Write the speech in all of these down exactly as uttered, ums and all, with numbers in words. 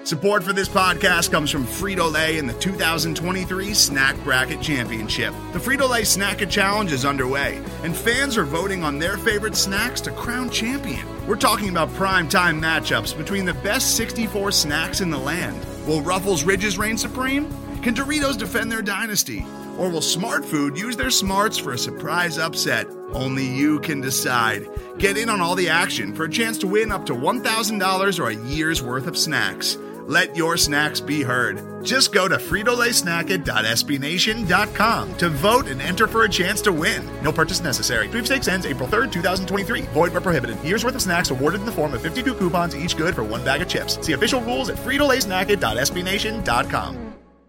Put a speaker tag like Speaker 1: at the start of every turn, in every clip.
Speaker 1: Support for this podcast comes from Frito-Lay and the two thousand twenty-three Snack Bracket Championship. The Frito-Lay Snack-It Challenge is underway, and fans are voting on their favorite snacks to crown champion. We're talking about prime-time matchups between the best sixty-four snacks in the land. Will Ruffles Ridges reign supreme? Can Doritos defend their dynasty? Or will Smart Food use their smarts for a surprise upset? Only you can decide. Get in on all the action for a chance to win up to one thousand dollars or a year's worth of snacks. Let your snacks be heard. Just go to Frito Lay Snack It dot S B Nation dot com to vote and enter for a chance to win. No purchase necessary. Sweepstakes ends April third, twenty twenty-three. Void where prohibited. Year's worth of snacks awarded in the form of fifty-two coupons, each good for one bag of chips. See official rules at Frito Lay Snack It dot S B Nation dot com.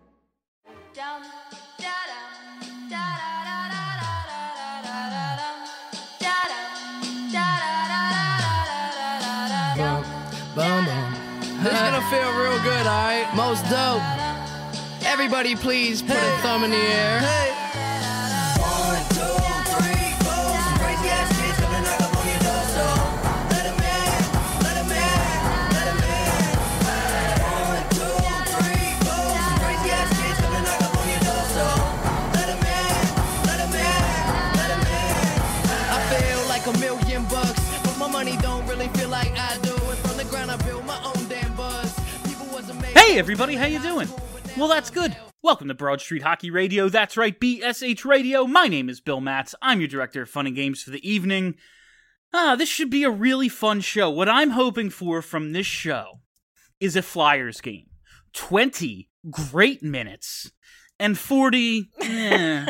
Speaker 2: Boom, boom. This is gonna feel real good, alright? Most dope. Everybody please put hey. a thumb in the air. Hey. One, two, three, four. Some crazy ass kids gonna knock up on your door, so let 'em in, let 'em in, let 'em in. One, two, three, four. Some crazy ass kids gonna knock up on your door, so let 'em in, let 'em in, let 'em in. I feel like a million bucks, but my money don't really feel like I do. And from the ground I build my own damn buzz.
Speaker 3: Hey everybody, how you doing? Well, that's good. Welcome to Broad Street Hockey Radio. That's right, B S H Radio. My name is Bill Matz. I'm your director of fun and games for the evening. Ah, this should be a really fun show. What I'm hoping for from this show is a Flyers game. twenty great minutes and forty eh,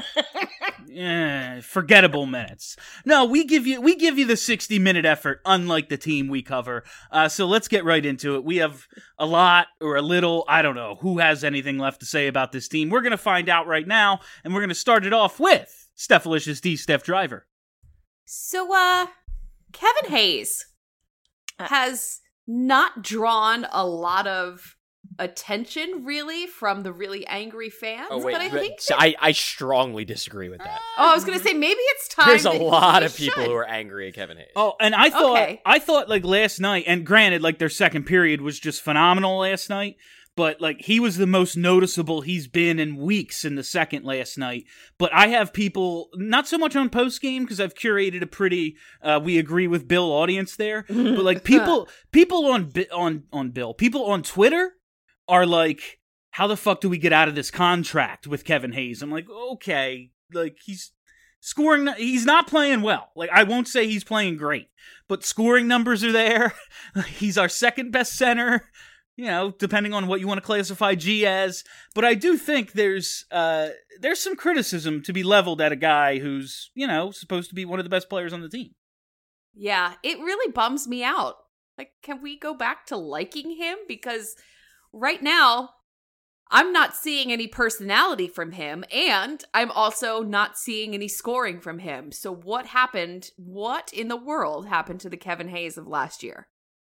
Speaker 3: eh, forgettable minutes. No, we give you we give you the sixty minute effort, unlike the team we cover. Uh, so let's get right into it. We have a lot or a little, I don't know, who has anything left to say about this team. We're going to find out right now, and we're going to start it off with Stephalicious D, Steph Driver.
Speaker 4: So, uh, Kevin Hayes has not drawn a lot of attention, really, from the really angry fans.
Speaker 5: Oh, wait,
Speaker 4: but I
Speaker 5: but,
Speaker 4: think
Speaker 5: so
Speaker 4: that,
Speaker 5: I, I strongly disagree with that.
Speaker 4: oh, I was going to say maybe it's time.
Speaker 5: There's a
Speaker 4: that
Speaker 5: lot
Speaker 4: he
Speaker 5: of people
Speaker 4: should.
Speaker 5: who are angry at Kevin Hayes.
Speaker 3: Oh, and I thought,
Speaker 4: Okay.
Speaker 3: I thought like last night, and granted, like their second period was just phenomenal last night, but like he was the most noticeable he's been in weeks in the second last night. But I have people, not so much on post game because I've curated a pretty, uh, we agree with Bill audience there, but like people, people on Bi- on on Bill, people on Twitter are like, how the fuck do we get out of this contract with Kevin Hayes? I'm like, okay, like he's scoring, he's not playing well. Like I won't say he's playing great, but scoring numbers are there. He's our second best center, you know, depending on what you want to classify G as. But I do think there's uh, there's some criticism to be leveled at a guy who's, you know, supposed to be one of the best players on the team.
Speaker 4: Yeah, it really bums me out. Like, can we go back to liking him? Because right now, I'm not seeing any personality from him, and I'm also not seeing any scoring from him. So what happened? What in the world happened to the Kevin Hayes of last year?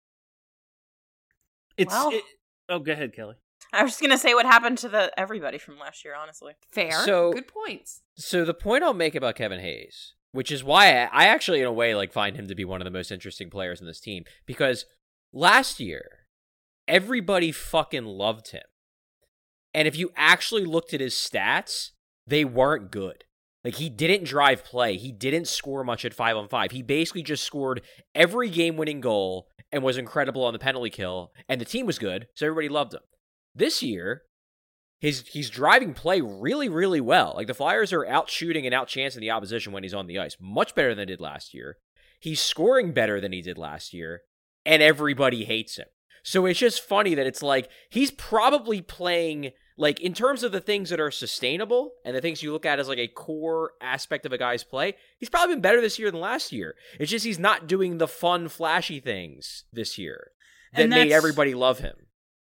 Speaker 3: It's
Speaker 6: Well-
Speaker 3: it, oh, go ahead, Kelly.
Speaker 6: I was just gonna say what happened to the everybody from last year, honestly.
Speaker 4: Fair.
Speaker 5: So-
Speaker 4: Good points.
Speaker 5: So the point I'll make about Kevin Hayes, which is why I, I actually, in a way, like find him to be one of the most interesting players in this team, because last year, everybody fucking loved him. And if you actually looked at his stats, they weren't good. Like, he didn't drive play. He didn't score much at five on five. He basically just scored every game-winning goal and was incredible on the penalty kill. And the team was good, so everybody loved him. This year, his he's driving play really, really well. Like, the Flyers are out-shooting and out-chancing the opposition when he's on the ice. Much better than they did last year. He's scoring better than he did last year. And everybody hates him. So it's just funny that it's like, he's probably playing, like, in terms of the things that are sustainable and the things you look at as like a core aspect of a guy's play, he's probably been better this year than last year. It's just he's not doing the fun, flashy things this year that
Speaker 3: And
Speaker 5: made
Speaker 3: that's-
Speaker 5: everybody love him.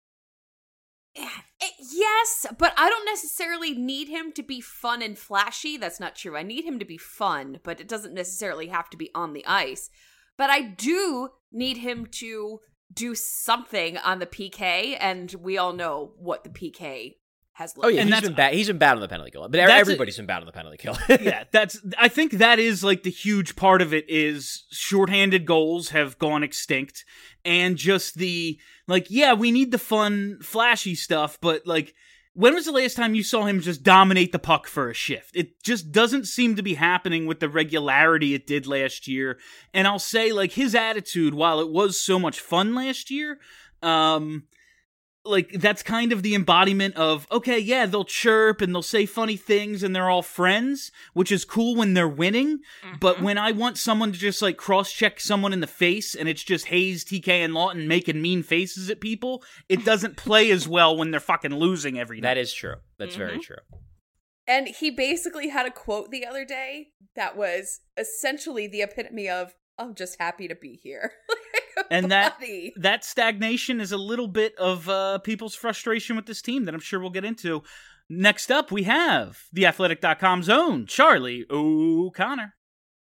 Speaker 4: Yes, but I don't necessarily need him to be fun and flashy. That's not true. I need him to be fun, but it doesn't necessarily have to be on the ice. But I do need him to do something on the P K, and we all know what the P K has looked.
Speaker 5: Oh yeah,
Speaker 3: And
Speaker 5: he's
Speaker 3: that's-
Speaker 5: been bad. He's been bad on the penalty kill, but
Speaker 3: That's
Speaker 5: everybody's been bad on the penalty kill.
Speaker 3: Yeah, that's I think that is like the huge part of it is shorthanded goals have gone extinct, and just the like yeah, we need the fun flashy stuff, but like when was the last time you saw him just dominate the puck for a shift? It just doesn't seem to be happening with the regularity it did last year. And I'll say like his attitude, while it was so much fun last year, um like that's kind of the embodiment of, okay, yeah, they'll chirp and they'll say funny things and they're all friends, which is cool when they're winning.
Speaker 6: Mm-hmm.
Speaker 3: But when I want someone to just like cross-check someone in the face and it's just Hayes, T K, and Lawton making mean faces at people, it doesn't play as well when they're fucking losing every night.
Speaker 5: That is true. That's very
Speaker 6: Mm-hmm.
Speaker 5: true.
Speaker 4: And he basically had a quote the other day that was essentially the epitome of, I'm just happy to be here.
Speaker 3: And that
Speaker 4: Buddy.
Speaker 3: that stagnation is a little bit of uh, people's frustration with this team that I'm sure we'll get into. Next up, we have the athletic dot com's own Charlie O'Connor.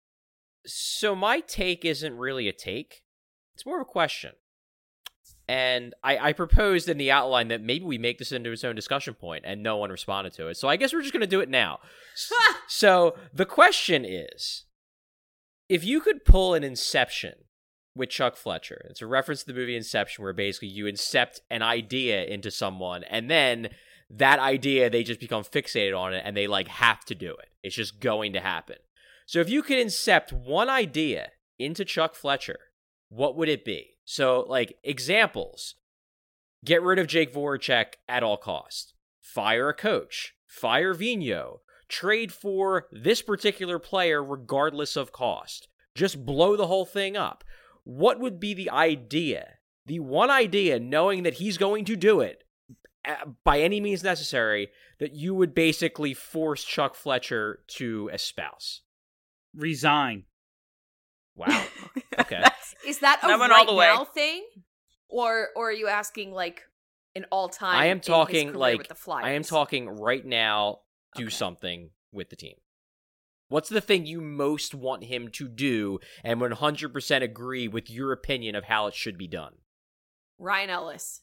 Speaker 5: So my take isn't really a take. It's more of a question. And I, I proposed in the outline that maybe we make this into its own discussion point, and no one responded to it. So I guess we're just going to do it now. So the question is, if you could pull an Inception with Chuck Fletcher, it's a reference to the movie Inception, where basically you incept an idea into someone, and then that idea, they just become fixated on it, and they like have to do it. It's just going to happen. So if you could incept one idea into Chuck Fletcher, what would it be? So, like, examples. Get rid of Jake Voracek at all costs. Fire a coach. Fire Vigneault. Trade for this particular player regardless of cost. Just blow the whole thing up. What would be the idea? The one idea, knowing that he's going to do it by any means necessary, that you would basically force Chuck Fletcher to espouse.
Speaker 3: Resign.
Speaker 5: Wow. Okay.
Speaker 4: Is that a
Speaker 6: That went
Speaker 4: right
Speaker 6: all the way.
Speaker 4: now thing? Or or are you asking like an all time?
Speaker 5: I am talking like
Speaker 4: with the Flyers?
Speaker 5: I am talking right now. Do
Speaker 4: Okay.
Speaker 5: something with the team. What's the thing you most want him to do, and one hundred percent agree with your opinion of how it should be done?
Speaker 4: Ryan Ellis.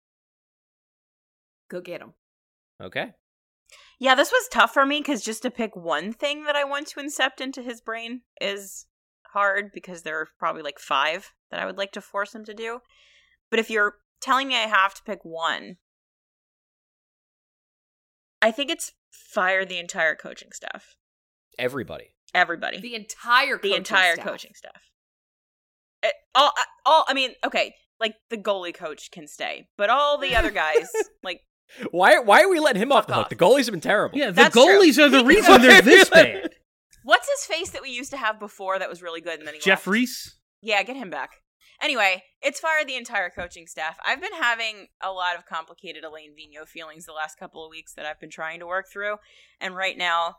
Speaker 4: Go get him.
Speaker 5: Okay.
Speaker 6: Yeah, this was tough for me because just to pick one thing that I want to incept into his brain is hard because there are probably like five that I would like to force him to do. But if you're telling me I have to pick one, I think it's fire the entire coaching staff.
Speaker 5: Everybody.
Speaker 6: Everybody.
Speaker 4: The entire
Speaker 6: the
Speaker 4: coaching
Speaker 6: entire
Speaker 4: staff.
Speaker 6: coaching staff. It, all, all. I mean, okay, like the goalie coach can stay, but all the other guys, like,
Speaker 5: Why? Why are we letting him off
Speaker 6: Fuck
Speaker 5: the hook?
Speaker 6: off.
Speaker 5: The goalies have been terrible.
Speaker 3: Yeah, the
Speaker 6: That's true.
Speaker 3: goalies are the
Speaker 6: He-
Speaker 3: reason they're this bad.
Speaker 6: what's his face that we used to have before that was really good, and then he
Speaker 3: Jeff
Speaker 6: left?
Speaker 3: Reese?
Speaker 6: Yeah, get him back. Anyway, it's fire the entire coaching staff. I've been having a lot of complicated Elaine Vigneault feelings the last couple of weeks that I've been trying to work through, and right now,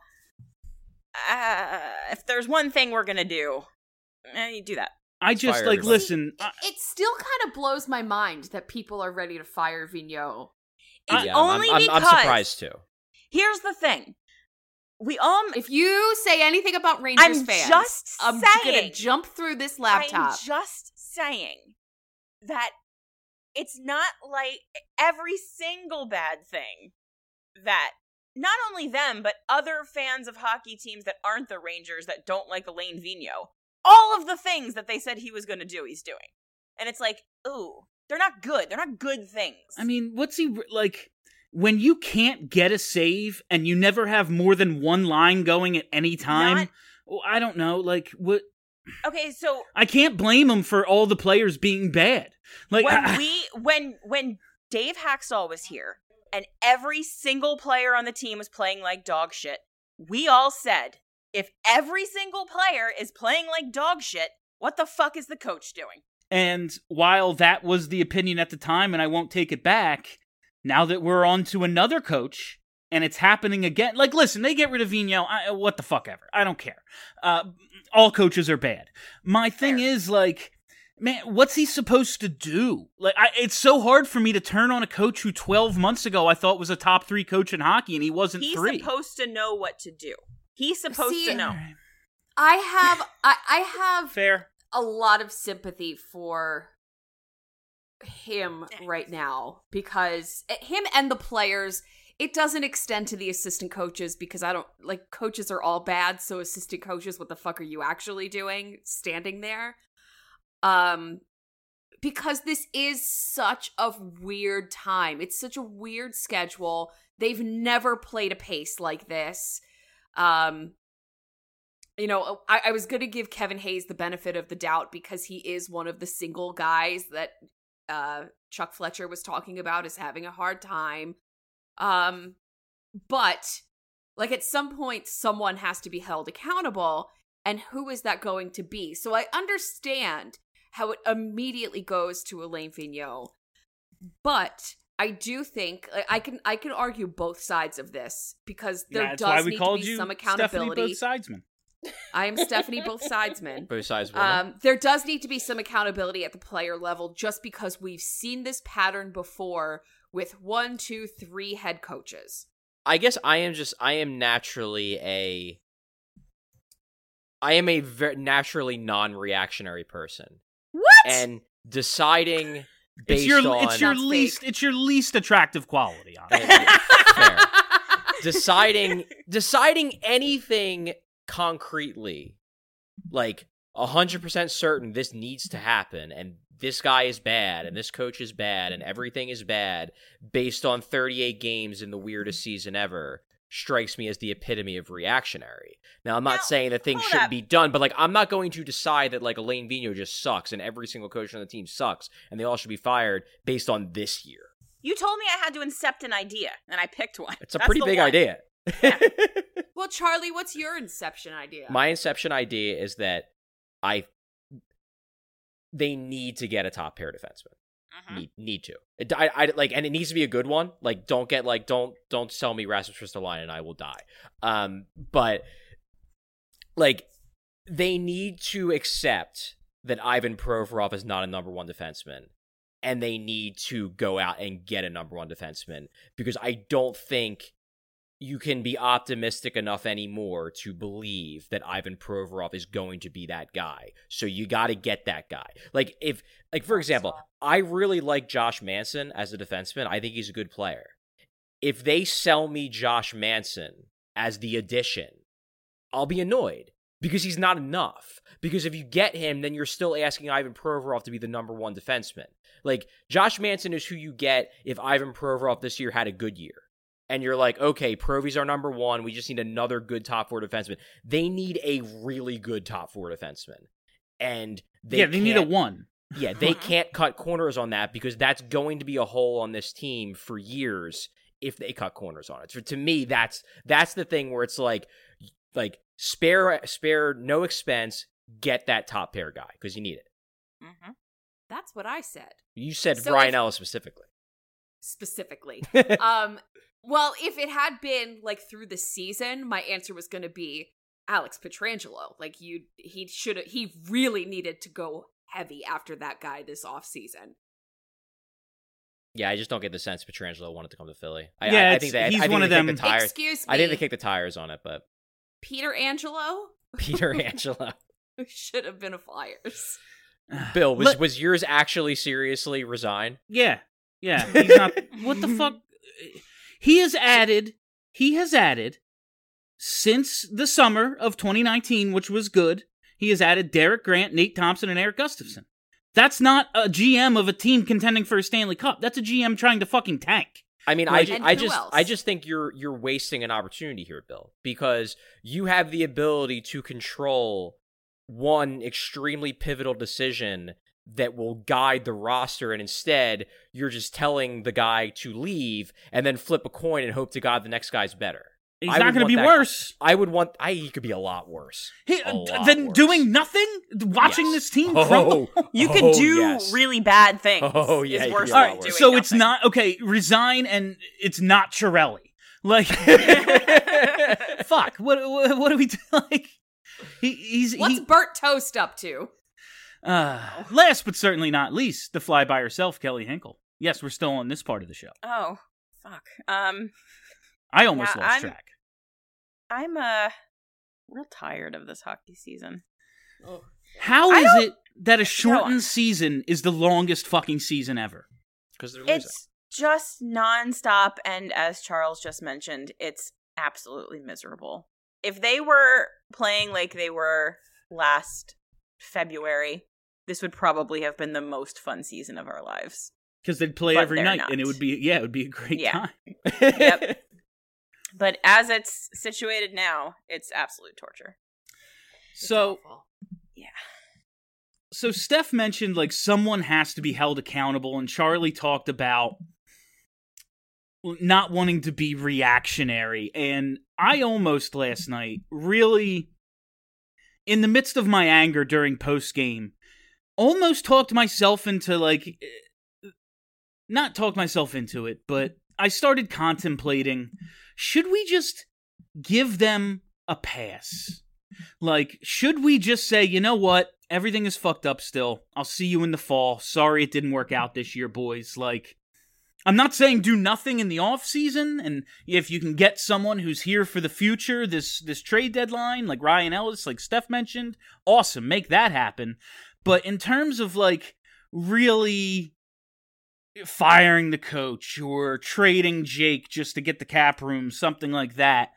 Speaker 6: uh, if there's one thing we're gonna do, eh, you do that.
Speaker 3: I just,
Speaker 5: fire
Speaker 3: like,
Speaker 5: everybody.
Speaker 3: listen.
Speaker 4: It,
Speaker 3: I,
Speaker 4: it still kind of blows my mind that people are ready to fire Vigneault.
Speaker 6: It's
Speaker 5: Yeah, I'm-
Speaker 6: only
Speaker 5: I'm,
Speaker 6: because
Speaker 5: I'm surprised too.
Speaker 6: here's the thing: we all.
Speaker 4: If you say anything about Rangers
Speaker 6: I'm
Speaker 4: fans,
Speaker 6: just
Speaker 4: I'm gonna
Speaker 6: saying.
Speaker 4: jump through this laptop.
Speaker 6: I'm just saying that it's not like every single bad thing that not only them, but other fans of hockey teams that aren't the Rangers that don't like Elaine Vigneault, all of the things that they said he was going to do, he's doing. And it's like, ooh, they're not good. They're not good things.
Speaker 3: I mean, what's he, like, when you can't get a save and you never have more than one line going at any time,
Speaker 6: Not-
Speaker 3: well, I don't know, like, what...
Speaker 6: okay, so
Speaker 3: I can't blame him for all the players being bad. Like,
Speaker 6: when
Speaker 3: I-
Speaker 6: we when when Dave Haxall was here and every single player on the team was playing like dog shit, we all said, if every single player is playing like dog shit, what the fuck is the coach doing?
Speaker 3: And while that was the opinion at the time, and I won't take it back, now that we're on to another coach, and it's happening again, like, listen, they get rid of Vigneault, I, what the fuck ever, I don't care. Uh, all coaches are bad. My thing
Speaker 6: Fair.
Speaker 3: is, like, man, what's he supposed to do? Like, I, it's so hard for me to turn on a coach who twelve months ago I thought was a top three coach in hockey, and he wasn't
Speaker 6: He's
Speaker 3: three.
Speaker 6: supposed to know what to do. He's supposed
Speaker 4: See,
Speaker 6: to know.
Speaker 4: I have I, I have
Speaker 3: Fair.
Speaker 4: a lot of sympathy for him right now because him and the players, it doesn't extend to the assistant coaches because I don't like coaches are all bad. So assistant coaches, what the fuck are you actually doing standing there? Um, because this is such a weird time. It's such a weird schedule. They've never played a pace like this. Um, you know, I, I was going to give Kevin Hayes the benefit of the doubt because he is one of the single guys that uh, Chuck Fletcher was talking about as having a hard time. Um, but like at some point, someone has to be held accountable. And who is that going to be? So I understand how it immediately goes to Alain Vigneault. But I do think I can I can argue both sides of this because there
Speaker 3: yeah,
Speaker 4: does need to be some accountability.
Speaker 3: Stephanie both sidesman.
Speaker 4: I am Stephanie both sidesman.
Speaker 5: Both sides.
Speaker 4: Um, there does need to be some accountability at the player level just because we've seen this pattern before with one, two, three head coaches.
Speaker 5: I guess I am just I am naturally a I am a very naturally non-reactionary person.
Speaker 4: What?
Speaker 5: And deciding based
Speaker 3: it's your
Speaker 5: on
Speaker 3: it's your
Speaker 4: That's
Speaker 3: least
Speaker 4: fake.
Speaker 3: it's your least attractive quality. Honestly.
Speaker 5: Fair. deciding deciding anything concretely, like a hundred percent certain this needs to happen, and this guy is bad, and this coach is bad, and everything is bad, based on thirty-eight games in the weirdest season ever, strikes me as the epitome of reactionary. Now, I'm not
Speaker 6: Now,
Speaker 5: saying that things
Speaker 6: hold
Speaker 5: shouldn't
Speaker 6: up.
Speaker 5: be done, but like I'm not going to decide that like Alain Vigneault just sucks and every single coach on the team sucks and they all should be fired based on this year.
Speaker 6: You told me I had to incept an idea, and I picked one.
Speaker 5: It's a
Speaker 6: That's
Speaker 5: pretty
Speaker 6: the
Speaker 5: big
Speaker 6: one.
Speaker 5: idea.
Speaker 4: Well, Charlie, what's your inception idea?
Speaker 5: My inception idea is that I they need to get a top pair defenseman.
Speaker 6: Mhm.
Speaker 5: Need need to. It, I, I like, and it needs to be a good one. Like, don't get like don't don't sell me Rasmus Ristolainen and I will die. Um, but like they need to accept that Ivan Provorov is not a number one defenseman, and they need to go out and get a number one defenseman because I don't think you can be optimistic enough anymore to believe that Ivan Provorov is going to be that guy. So you got to get that guy. Like if, like for example, I really like Josh Manson as a defenseman. I think he's a good player. If they sell me Josh Manson as the addition, I'll be annoyed because he's not enough. Because if you get him, then you're still asking Ivan Provorov to be the number one defenseman. Like Josh Manson is who you get if Ivan Provorov this year had a good year. And you're like, okay, Provy's our number one. We just need another good top four defenseman. They need a really good top four defenseman. And they
Speaker 3: yeah, they need a
Speaker 5: can't-
Speaker 3: one.
Speaker 5: Yeah, they can't cut corners on that because that's going to be a hole on this team for years if they cut corners on it. So to me, that's that's the thing where it's like, like spare spare no expense, get that top pair guy because you need it.
Speaker 6: Mm-hmm.
Speaker 4: That's what I said.
Speaker 5: You said
Speaker 4: So
Speaker 5: Brian
Speaker 4: if-
Speaker 5: Ellis specifically.
Speaker 4: Specifically. um, well, if it had been like through the season, my answer was going to be Alex Pietrangelo. Like you, he should have. He really needed to go heavy after that guy this offseason.
Speaker 5: Yeah, I just don't get the sense Pietrangelo wanted to come to Philly. I,
Speaker 3: Yeah,
Speaker 5: I, I
Speaker 3: it's-
Speaker 5: think they,
Speaker 3: he's
Speaker 5: I think
Speaker 3: one
Speaker 5: they
Speaker 3: of
Speaker 5: kicked
Speaker 3: them-
Speaker 5: The tires.
Speaker 4: Excuse me.
Speaker 5: I think they kicked the tires on it, but
Speaker 4: Peter Angelo
Speaker 5: Peter Angelo.
Speaker 4: should have been a Flyers.
Speaker 5: Bill, was
Speaker 3: Let-
Speaker 5: was yours actually seriously resign?
Speaker 3: Yeah, yeah. He's not. What the fuck? He has added. He has added since the summer of twenty nineteen, which was good. He has added Derek Grant, Nate Thompson, and Eric Gustafson. That's not a G M of a team contending for a Stanley Cup. That's a G M trying to fucking tank.
Speaker 5: I mean,
Speaker 3: Like-
Speaker 5: I,
Speaker 4: And
Speaker 5: I
Speaker 4: who
Speaker 5: just
Speaker 4: else?
Speaker 5: I just think you're you're wasting an opportunity here, Bill, because you have the ability to control one extremely pivotal decision that will guide the roster, and instead you're just telling the guy to leave and then flip a coin and hope to God the next guy's better.
Speaker 3: He's
Speaker 5: I
Speaker 3: not
Speaker 5: would
Speaker 3: going to
Speaker 5: want
Speaker 3: be
Speaker 5: that-
Speaker 3: worse.
Speaker 5: I would want. I he could be a lot worse.
Speaker 3: He,
Speaker 5: A lot
Speaker 3: then
Speaker 5: worse.
Speaker 3: doing nothing, watching
Speaker 5: Yes.
Speaker 3: this team
Speaker 5: Oh,
Speaker 3: crumble.
Speaker 6: You
Speaker 5: oh,
Speaker 6: can do
Speaker 5: yes.
Speaker 6: really bad things.
Speaker 5: Oh, yeah,
Speaker 6: is
Speaker 5: you
Speaker 6: worse
Speaker 5: can
Speaker 3: All
Speaker 5: do
Speaker 6: than
Speaker 3: right,
Speaker 6: doing
Speaker 3: so it's
Speaker 6: nothing.
Speaker 3: not okay. Resign, and it's not Chiarelli. Like, fuck. What, what? What do we do? Like, he, he's
Speaker 4: What's
Speaker 3: he,
Speaker 4: Bert Toast up to?
Speaker 3: Uh, last but certainly not least, the fly by herself, Kelly Hinkle. Yes, we're still on this part of the show.
Speaker 6: Oh, fuck. Um,
Speaker 3: I almost
Speaker 6: Yeah,
Speaker 3: lost
Speaker 6: I'm-
Speaker 3: track.
Speaker 6: I'm uh real tired of this hockey season.
Speaker 3: How
Speaker 6: I
Speaker 3: is
Speaker 6: don't-
Speaker 3: it that a shortened
Speaker 6: No.
Speaker 3: season is the longest fucking season ever?
Speaker 5: Because they're losing.
Speaker 6: It's just nonstop. And as Charles just mentioned, it's absolutely miserable. If they were playing like they were last February, this would probably have been the most fun season of our lives.
Speaker 3: Because they'd play
Speaker 6: But
Speaker 3: every
Speaker 6: they're
Speaker 3: night,
Speaker 6: not.
Speaker 3: and it would be yeah, it would be a great
Speaker 6: Yeah.
Speaker 3: time.
Speaker 6: Yep. But as it's situated now, it's absolute torture.
Speaker 3: So
Speaker 6: Yeah.
Speaker 3: so Steph mentioned like someone has to be held accountable, and Charlie talked about not wanting to be reactionary. And I almost last night really, in the midst of my anger during post game, almost talked myself into like, not talked myself into it, but I started contemplating, should we just give them a pass? Like, should we just say, you know what? Everything is fucked up still. I'll see you in the fall. Sorry it didn't work out this year, boys. Like, I'm not saying do nothing in the off season, and if you can get someone who's here for the future, this this trade deadline, like Ryan Ellis, like Steph mentioned, awesome, make that happen. But in terms of like really firing the coach or trading Jake just to get the cap room, something like that,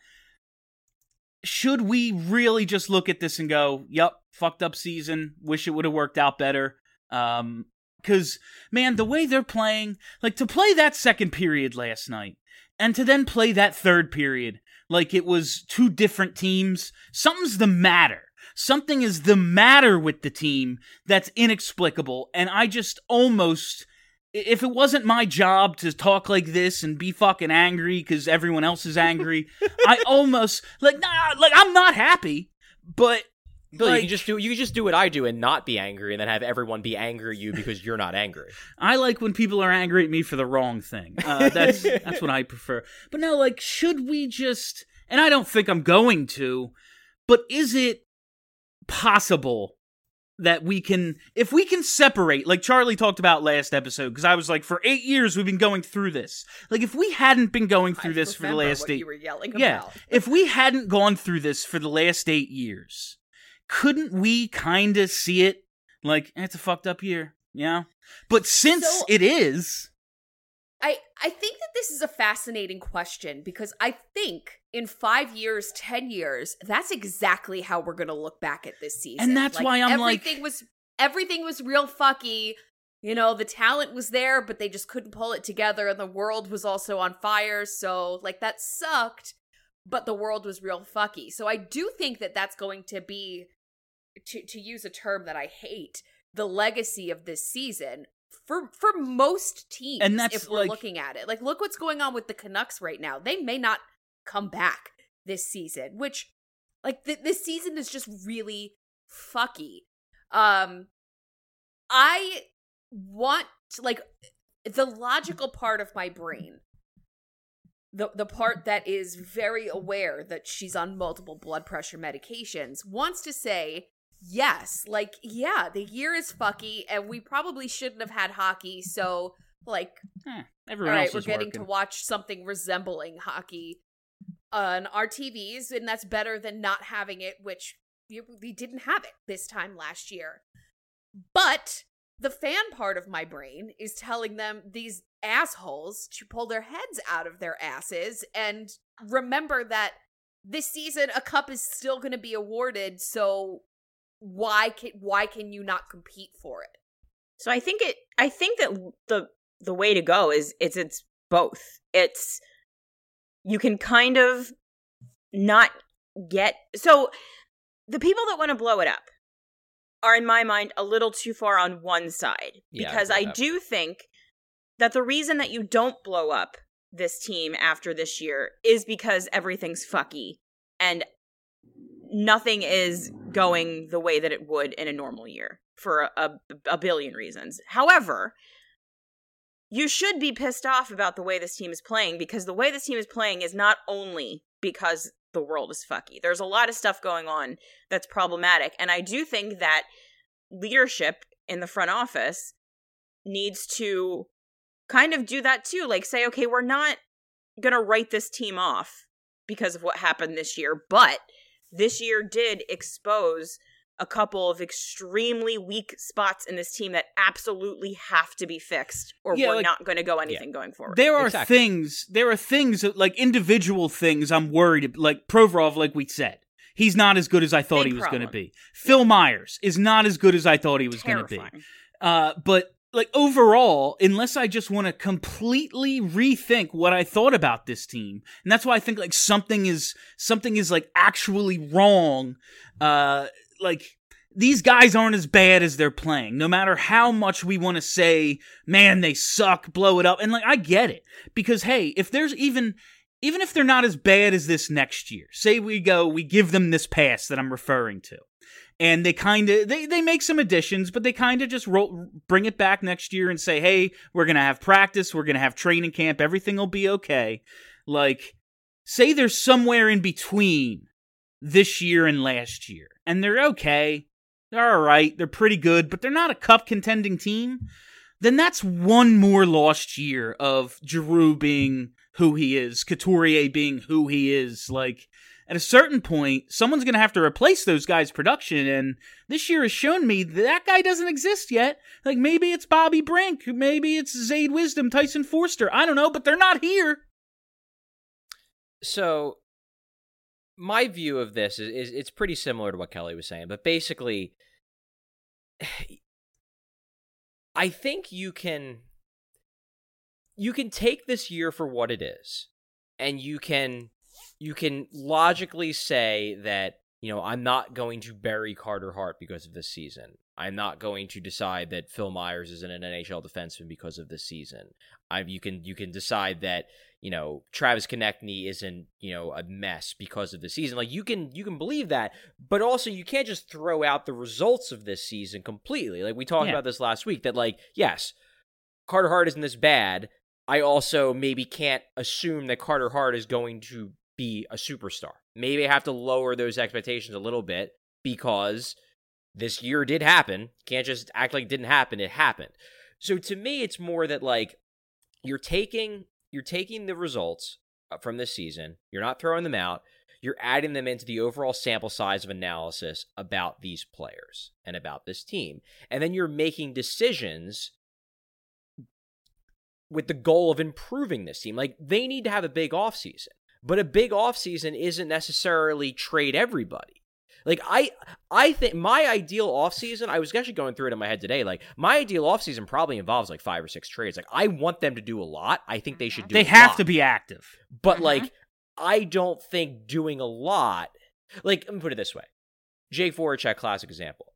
Speaker 3: should we really just look at this and go, "Yup, fucked up season. Wish it would have worked out better." Um, Because, man, the way they're playing, like, to play that second period last night, and to then play that third period, like it was two different teams, something's the matter. Something is the matter with the team that's inexplicable, and I just almost, if it wasn't my job to talk like this and be fucking angry because everyone else is angry, I almost, like, nah, like, I'm not happy, but...
Speaker 5: Billy,
Speaker 3: like,
Speaker 5: you can just do you can just do what I do and not be angry, and then have everyone be angry at you because you're not angry.
Speaker 3: I like when people are angry at me for the wrong thing. Uh, that's that's what I prefer. But no, like, should we just? And I don't think I'm going to. But is it possible that we can, if we can separate, like Charlie talked about last episode? Because I was like, for eight years we've been going through this. Like, if we hadn't been going through
Speaker 4: I
Speaker 3: this for the
Speaker 4: remember
Speaker 3: last
Speaker 4: what
Speaker 3: eight,
Speaker 4: you were yelling
Speaker 3: yeah,
Speaker 4: about.
Speaker 3: if we hadn't gone through this for the last eight years. Couldn't we kind of see it like, eh, it's a fucked up year, yeah? But since
Speaker 4: So-
Speaker 3: it is...
Speaker 4: I, I think that this is a fascinating question because I think in five years, ten years, that's exactly how we're going to look back at this season.
Speaker 3: And that's why I'm like-
Speaker 4: everything was everything was real fucky. You know, the talent was there, but they just couldn't pull it together, and the world was also on fire. So, like, that sucked, but the world was real fucky. So I do think that that's going to be, to to use a term that I hate, the legacy of this season. For for most teams,
Speaker 3: And that's,
Speaker 4: if we're
Speaker 3: like-
Speaker 4: looking at it. Like, look what's going on with the Canucks right now. They may not come back this season, which, like, th- this season is just really fucky. Um, I want, like, the logical part of my brain, the the part that is very aware that she's on multiple blood pressure medications, wants to say, yes, like, yeah, the year is fucky, and we probably shouldn't have had hockey, so, like,
Speaker 3: Eh,
Speaker 4: all
Speaker 3: everyone
Speaker 4: right,
Speaker 3: else
Speaker 4: we're
Speaker 3: is
Speaker 4: getting
Speaker 3: working.
Speaker 4: to watch something resembling hockey on our T Vs, and that's better than not having it, which you- we didn't have it this time last year. But the fan part of my brain is telling them, these assholes, to pull their heads out of their asses and remember that this season a cup is still going to be awarded, so why can why can you not compete for it?
Speaker 6: So I think it I think that the the way to go is it's it's both. It's you can kind of not get so the people that want to blow it up are, in my mind, a little too far on one side.
Speaker 5: Yeah,
Speaker 6: Because
Speaker 5: I
Speaker 6: I
Speaker 5: agree with that.
Speaker 6: do think that the reason that you don't blow up this team after this year is because everything's fucky and nothing is going the way that it would in a normal year for a, a, a billion reasons. However, you should be pissed off about the way this team is playing, because the way this team is playing is not only because the world is fucky. There's a lot of stuff going on that's problematic. And I do think that leadership in the front office needs to kind of do that too. Like, say, okay, we're not going to write this team off because of what happened this year, but this year did expose a couple of extremely weak spots in this team that absolutely have to be fixed, or
Speaker 3: Yeah,
Speaker 6: we're
Speaker 3: like-
Speaker 6: not going to go anything going forward.
Speaker 3: There are
Speaker 5: Exactly.
Speaker 3: things, there are things, that, like individual things I'm worried, like Provorov, like we said. He's not as good as I thought
Speaker 6: Big
Speaker 3: he was going to
Speaker 6: problem.
Speaker 3: be. Phil Myers is not as good as I thought he was going to be.
Speaker 6: Terrifying.
Speaker 3: Uh, but like overall, unless I just want to completely rethink what I thought about this team, and that's why I think like something is something is like actually wrong. Uh, like these guys aren't as bad as they're playing. No matter how much we want to say, man, they suck, blow it up, and like I get it because hey, if there's even even if they're not as bad as this next year, say we go, we give them this pass that I'm referring to. And they kind of, they, they make some additions, but they kind of just roll, bring it back next year and say, hey, we're going to have practice, we're going to have training camp, everything will be okay. Like, say they're somewhere in between this year and last year, and they're okay, they're all right, they're pretty good, but they're not a cup contending team, then that's one more lost year of Giroux being who he is, Couturier being who he is, like... At a certain point, someone's going to have to replace those guys' production, and this year has shown me that, that guy doesn't exist yet. Like, maybe it's Bobby Brink, maybe it's Zayd Wisdom, Tyson Forster, I don't know, but they're not here.
Speaker 5: So, my view of this is, is it's pretty similar to what Kelly was saying, but basically, I think you can, you can take this year for what it is, and you can... You can logically say that, you know, I'm not going to bury Carter Hart because of this season. I'm not going to decide that Phil Myers isn't an N H L defenseman because of this season. I, you can you can decide that, you know, Travis Konechny isn't, you know, a mess because of the season. Like, you can you can believe that, but also you can't just throw out the results of this season completely. Like, we talked
Speaker 3: Yeah.
Speaker 5: about this last week, that, like, yes, Carter Hart isn't this bad. I also maybe can't assume that Carter Hart is going to be a superstar. Maybe I have to lower those expectations a little bit because this year did happen. Can't just act like it didn't happen. It happened. So to me, it's more that like you're taking you're taking the results from this season. You're not throwing them out. You're adding them into the overall sample size of analysis about these players and about this team. And then you're making decisions with the goal of improving this team. Like, they need to have a big offseason. But a big offseason isn't necessarily trade everybody. Like, I I think my ideal offseason, I was actually going through it in my head today, like, my ideal offseason probably involves, like, five or six trades. Like, I want them to do a lot. I think they should do
Speaker 3: They
Speaker 5: a
Speaker 3: have
Speaker 5: lot.
Speaker 3: to be active.
Speaker 5: But,
Speaker 4: Mhm.
Speaker 5: like, I don't think doing a lot... Like, let me put it this way. Jake Voracek, classic example.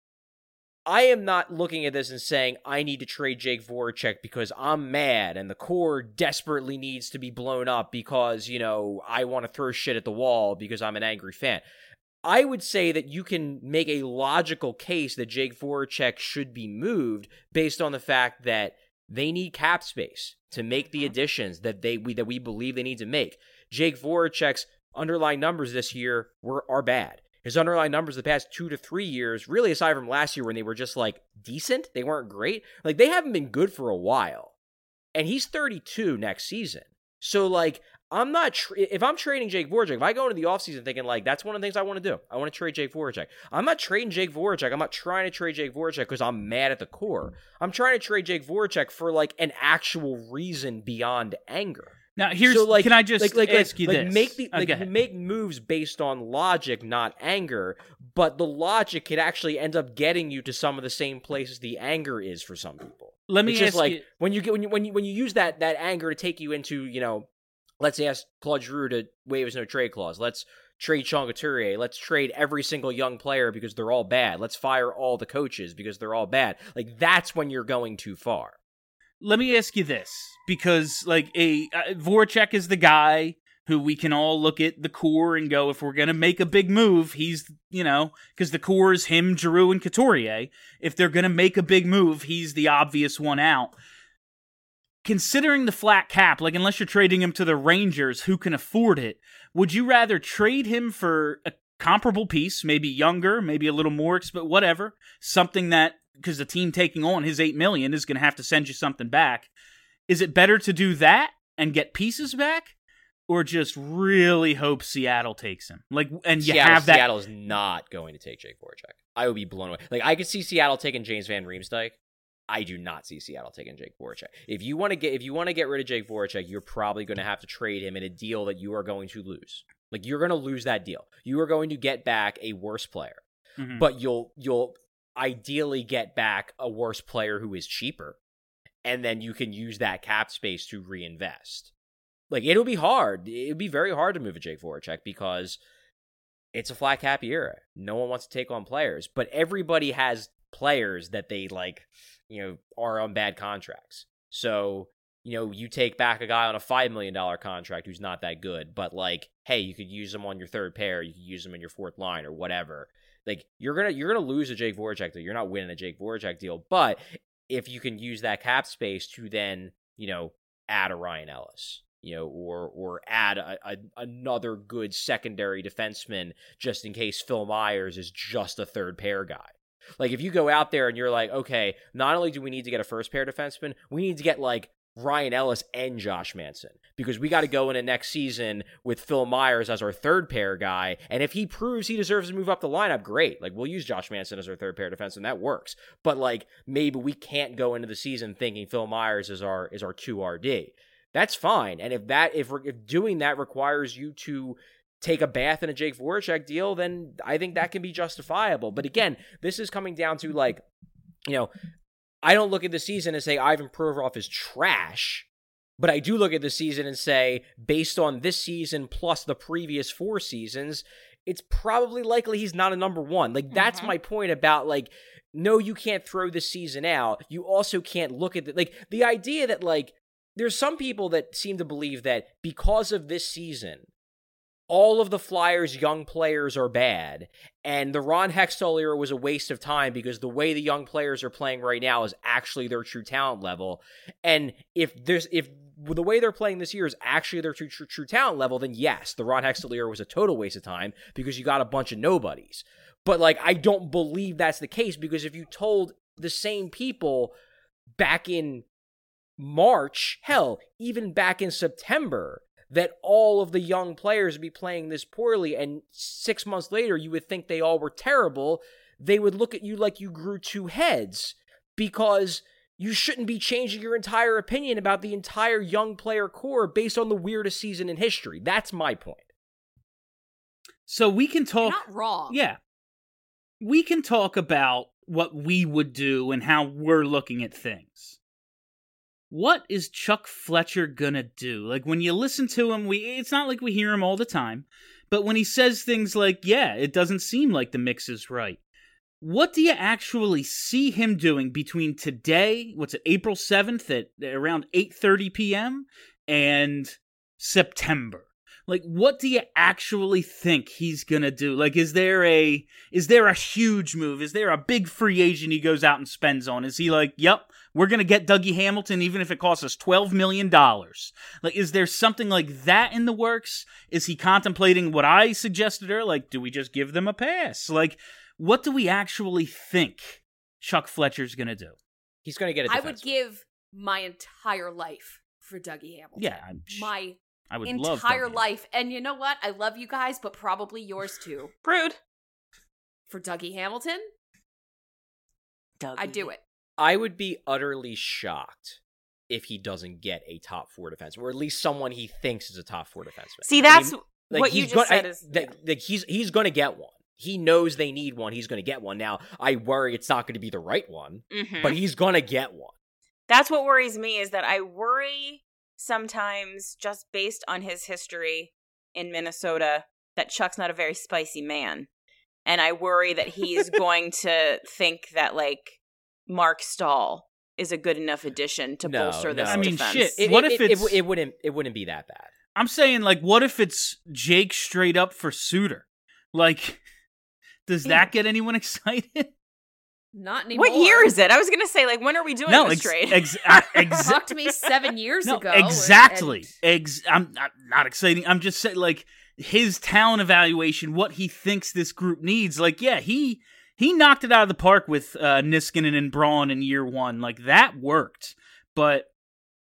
Speaker 5: I am not looking at this and saying, I need to trade Jake Voracek because I'm mad and the core desperately needs to be blown up because, you know, I want to throw shit at the wall because I'm an angry fan. I would say that you can make a logical case that Jake Voracek should be moved based on the fact that they need cap space to make the additions that they we, that we believe they need to make. Jake Voracek's underlying numbers this year were are bad. His underlying numbers the past two to three years, really aside from last year when they were just like decent, they weren't great. Like, they haven't been good for a while. And he's thirty-two next season. So, like, I'm not, tra- if I'm trading Jake Voracek, if I go into the offseason thinking, like, that's one of the things I want to do. I want to trade Jake Voracek. I'm not trading Jake Voracek. I'm not trying to trade Jake Voracek because I'm mad at the core. I'm trying to trade Jake Voracek for, like, an actual reason beyond anger.
Speaker 3: Now, here's,
Speaker 5: So, like,
Speaker 3: can I just
Speaker 5: like, like,
Speaker 3: ask
Speaker 5: like,
Speaker 3: you
Speaker 5: like
Speaker 3: this?
Speaker 5: Make the,
Speaker 3: Oh,
Speaker 5: like,
Speaker 3: go ahead.
Speaker 5: make moves based on logic, not anger. But the logic could actually end up getting you to some of the same places the anger is for some people.
Speaker 3: Let me
Speaker 5: It's
Speaker 3: ask
Speaker 5: just like
Speaker 3: you,
Speaker 5: when you get when you when you when you use that that anger to take you into, you know, let's ask Claude Giroux to waive his no trade clause. Let's trade Sean Couturier. Let's trade every single young player because they're all bad. Let's fire all the coaches because they're all bad. Like, that's when you're going too far.
Speaker 3: let me ask you this, because like a uh, Voracek is the guy who we can all look at the core and go, if we're going to make a big move, he's, you know, because the core is him, Giroux, and Couturier. If they're going to make a big move, he's the obvious one out. Considering the flat cap, like unless you're trading him to the Rangers, who can afford it, would you rather trade him for a comparable piece, maybe younger, maybe a little more, but whatever, something that, because the team taking on his eight million dollars is going to have to send you something back. Is it better to do that and get pieces back? or just really hope Seattle takes him? Like, and you
Speaker 5: Seattle,
Speaker 3: have that.
Speaker 5: Seattle is not going to take Jake Voracek. I would be blown away. Like, I could see Seattle taking James Van Riemsdyk. I do not see Seattle taking Jake Voracek. If you want to get if you want to get rid of Jake Voracek, you're probably going to have to trade him in a deal that you are going to lose. Like, you're going to lose that deal. You are going to get back a worse player,
Speaker 3: Mhm.
Speaker 5: but you'll you'll ideally get back a worse player who is cheaper, and then you can use that cap space to reinvest. Like, it'll be hard. It'll be very hard to move a Jake Voracek because it's a flat cap era. No one wants to take on players, but everybody has players that they like, you know, are on bad contracts. So, you know, you take back a guy on a five million dollars contract who's not that good, but like, hey, you could use him on your third pair, you could use him in your fourth line or whatever. Like, you're gonna you're gonna lose a Jake Voracek deal. You're not winning a Jake Voracek deal, but if you can use that cap space to then, you know, add a Ryan Ellis, you know, or or add a, a, another good secondary defenseman just in case Phil Myers is just a third pair guy. Like, if you go out there and you're like, okay, not only do we need to get a first pair defenseman, we need to get like Ryan Ellis and Josh Manson, because we got to go into next season with Phil Myers as our third pair guy. And if he proves he deserves to move up the lineup, great. Like, we'll use Josh Manson as our third pair defenseman. That works. But like, maybe we can't go into the season thinking Phil Myers is our is our two R D. That's fine. And if that if if doing that requires you to take a bath in a Jake Voracek deal, then I think that can be justifiable. But again, this is coming down to, like, you know, I don't look at the season and say Ivan Provorov is trash, but I do look at the season and say, based on this season plus the previous four seasons, it's probably likely he's not a number one. Like, that's
Speaker 6: Mm-hmm.
Speaker 5: my point about, like, no, you can't throw this season out. You also can't look at the, like, the idea that, like, there's some people that seem to believe that because of this season, all of the Flyers' young players are bad, and the Ron Hextall era was a waste of time because the way the young players are playing right now is actually their true talent level. And if there's if the way they're playing this year is actually their true, true, true talent level, then yes, the Ron Hextall era was a total waste of time because you got a bunch of nobodies. But like, I don't believe that's the case, because if you told the same people back in March, hell, even back in September, that all of the young players would be playing this poorly, and six months later you would think they all were terrible, they would look at you like you grew two heads, because you shouldn't be changing your entire opinion about the entire young player core based on the weirdest season in history. That's my point.
Speaker 3: So we can
Speaker 4: You're
Speaker 3: talk.
Speaker 4: not wrong.
Speaker 3: Yeah. We can talk about what we would do and how we're looking at things. What is Chuck Fletcher gonna do? Like, when you listen to him, we it's not like we hear him all the time, but when he says things like, yeah, it doesn't seem like the mix is right. What do you actually see him doing between today, what's it, April seventh at around eight thirty p.m., and September? Like, what do you actually think he's gonna do? Like, is there a is there a huge move? Is there a big free agent he goes out and spends on? Is he like, yep, we're gonna get Dougie Hamilton even if it costs us twelve million dollars? Like, is there something like that in the works? Is he contemplating what I suggested earlier? Like, do we just give them a pass? Like, what do we actually think Chuck Fletcher's gonna do?
Speaker 5: He's going to get a
Speaker 4: I
Speaker 5: defenseman.
Speaker 4: would give my entire life for Dougie Hamilton.
Speaker 3: Yeah, I'm sh-
Speaker 4: my
Speaker 3: I would love
Speaker 4: entire
Speaker 3: Dougie.
Speaker 4: life. And you know what? I love you guys, but probably yours too.
Speaker 6: Rude.
Speaker 4: For Dougie Hamilton,
Speaker 6: Dougie.
Speaker 4: I do it.
Speaker 5: I would be utterly shocked if he doesn't get a top four defenseman, or at least someone he thinks is a top four defenseman.
Speaker 6: See, that's
Speaker 5: I mean, like,
Speaker 6: what you
Speaker 5: he's
Speaker 6: just
Speaker 5: gonna-
Speaker 6: said
Speaker 5: I-
Speaker 6: is
Speaker 5: that- like, he's he's going to get one. He knows they need one. He's going to get one. Now, I worry it's not going to be the right one,
Speaker 6: Mhm.
Speaker 5: but he's going to get one.
Speaker 6: That's what worries me, is that I worry sometimes, just based on his history in Minnesota, that Chuck's not a very spicy man. And I worry that he's going to think that, like, Mark Stahl is a good enough addition to
Speaker 5: No,
Speaker 6: bolster
Speaker 5: no.
Speaker 6: this
Speaker 3: I mean,
Speaker 6: defense.
Speaker 3: shit,
Speaker 5: It,
Speaker 3: What
Speaker 5: it-
Speaker 3: if
Speaker 5: it,
Speaker 3: it's-
Speaker 5: it, it wouldn't it wouldn't be that bad?
Speaker 3: I'm saying, like, what if it's Jake straight up for Suter? Like, does that get anyone excited?
Speaker 4: Not anymore.
Speaker 6: What year is it? I was going to say, like, when are we doing
Speaker 3: No,
Speaker 6: this
Speaker 3: ex-
Speaker 6: trade?
Speaker 3: ex- uh, ex-
Speaker 4: Talk to me seven years
Speaker 3: no,
Speaker 4: ago.
Speaker 3: exactly.
Speaker 4: and-
Speaker 3: Ex- I'm not, not exciting. I'm just saying, like, his talent evaluation, what he thinks this group needs. Like, yeah, he he knocked it out of the park with uh, Niskanen and Braun in year one. Like, that worked. But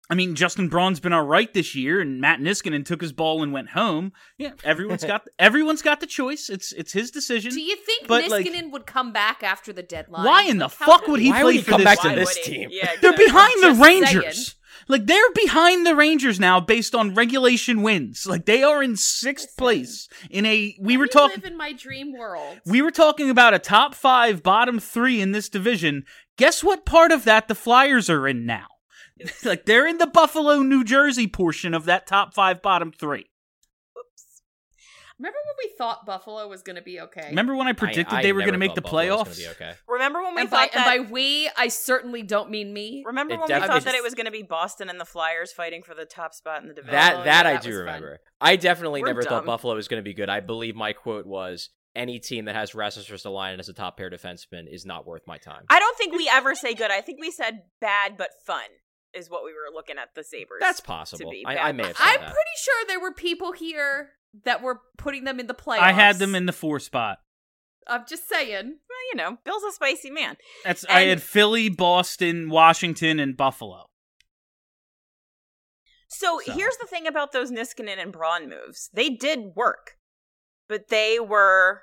Speaker 3: I mean, Justin Braun's been all right this year, and Matt Niskanen took his ball and went home. Yeah, everyone's got everyone's got the choice. It's it's his decision.
Speaker 4: Do you think
Speaker 3: but,
Speaker 4: Niskanen
Speaker 3: like,
Speaker 4: would come back after the deadline?
Speaker 3: Why in the
Speaker 4: Like, how
Speaker 3: fuck
Speaker 4: did-
Speaker 3: would he
Speaker 5: Why
Speaker 3: play
Speaker 5: would he
Speaker 3: for
Speaker 5: come
Speaker 3: this
Speaker 5: back to
Speaker 3: team?
Speaker 5: this
Speaker 6: would he?
Speaker 5: team?
Speaker 6: Yeah,
Speaker 3: They're
Speaker 6: good.
Speaker 3: behind the
Speaker 4: Just
Speaker 3: Rangers.
Speaker 4: saying.
Speaker 3: Like, they're behind the Rangers now based on regulation wins. Like, they are in sixth
Speaker 4: Listen.
Speaker 3: place in a. We
Speaker 4: Let
Speaker 3: were
Speaker 4: me
Speaker 3: talking.
Speaker 4: live in my dream world.
Speaker 3: We were talking about a top five, bottom three in this division. Guess what part of that the Flyers are in now? Like, they're in the Buffalo, New Jersey portion of that top five, bottom three.
Speaker 6: Oops.
Speaker 4: Remember when we thought Buffalo was going to be okay?
Speaker 3: Remember when I predicted
Speaker 5: I- I
Speaker 3: they were going to
Speaker 5: never
Speaker 3: make
Speaker 5: thought
Speaker 3: the
Speaker 5: Buffalo was
Speaker 3: playoffs?
Speaker 5: gonna be okay.
Speaker 6: Remember when we
Speaker 4: And by,
Speaker 6: thought that?
Speaker 4: and by we, I certainly don't mean me.
Speaker 6: remember
Speaker 5: It
Speaker 6: when we
Speaker 5: definitely
Speaker 6: thought that
Speaker 5: just-
Speaker 6: it was going to be Boston and the Flyers fighting for the top spot in the division?
Speaker 5: That
Speaker 4: Oh,
Speaker 5: that
Speaker 4: yeah,
Speaker 5: I
Speaker 4: that
Speaker 5: do
Speaker 4: was fun.
Speaker 5: remember. I definitely
Speaker 6: We're
Speaker 5: never thought
Speaker 6: dumb.
Speaker 5: Buffalo was going to be good. I believe my quote was, "Any team that has Rasmus Ristolainen as a top pair defenseman is not worth my time."
Speaker 6: I don't think we ever say good. I think we said bad but fun is what we were looking at the Sabres.
Speaker 5: That's possible.
Speaker 6: be
Speaker 5: I,
Speaker 6: bad
Speaker 5: I may
Speaker 6: but
Speaker 5: have
Speaker 6: fun.
Speaker 5: said
Speaker 4: I'm
Speaker 5: that.
Speaker 4: pretty sure there were people here that were putting them in the playoffs.
Speaker 3: I had them in the four spot.
Speaker 4: I'm just saying.
Speaker 6: Well, you know, Bill's a spicy man.
Speaker 3: That's I
Speaker 6: And-
Speaker 3: had Philly, Boston, Washington, and Buffalo.
Speaker 6: So,
Speaker 3: So.
Speaker 6: here's the thing about those Niskanen and Braun moves. They did work, but they were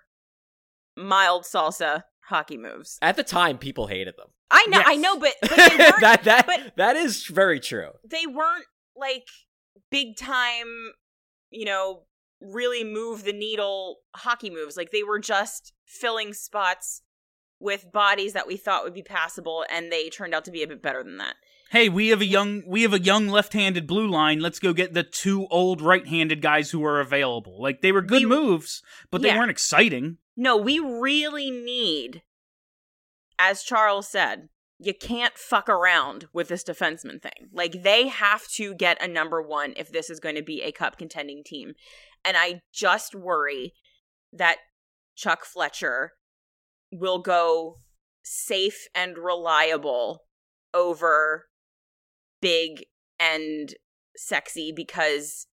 Speaker 6: mild salsa hockey moves.
Speaker 5: At the time, people hated them.
Speaker 6: I know, I
Speaker 3: Yes.
Speaker 6: know, but, but they weren't.
Speaker 5: that that
Speaker 6: but-
Speaker 5: that is very true.
Speaker 6: they weren't like big time, you know, really move the needle hockey moves. Like they were just filling spots with bodies that we thought would be passable, and they turned out to be a bit better than that.
Speaker 3: Hey, we have a young we have a young left-handed blue line. Let's go get the two old right-handed guys who are available. Like they were good
Speaker 6: We-
Speaker 3: moves, but they
Speaker 6: Yeah.
Speaker 3: weren't exciting.
Speaker 6: No, we really need, as Charles said, you can't fuck around with this defenseman thing. Like, they have to get a number one if this is going to be a cup contending team. And I just worry that Chuck Fletcher will go safe and reliable over big and sexy, because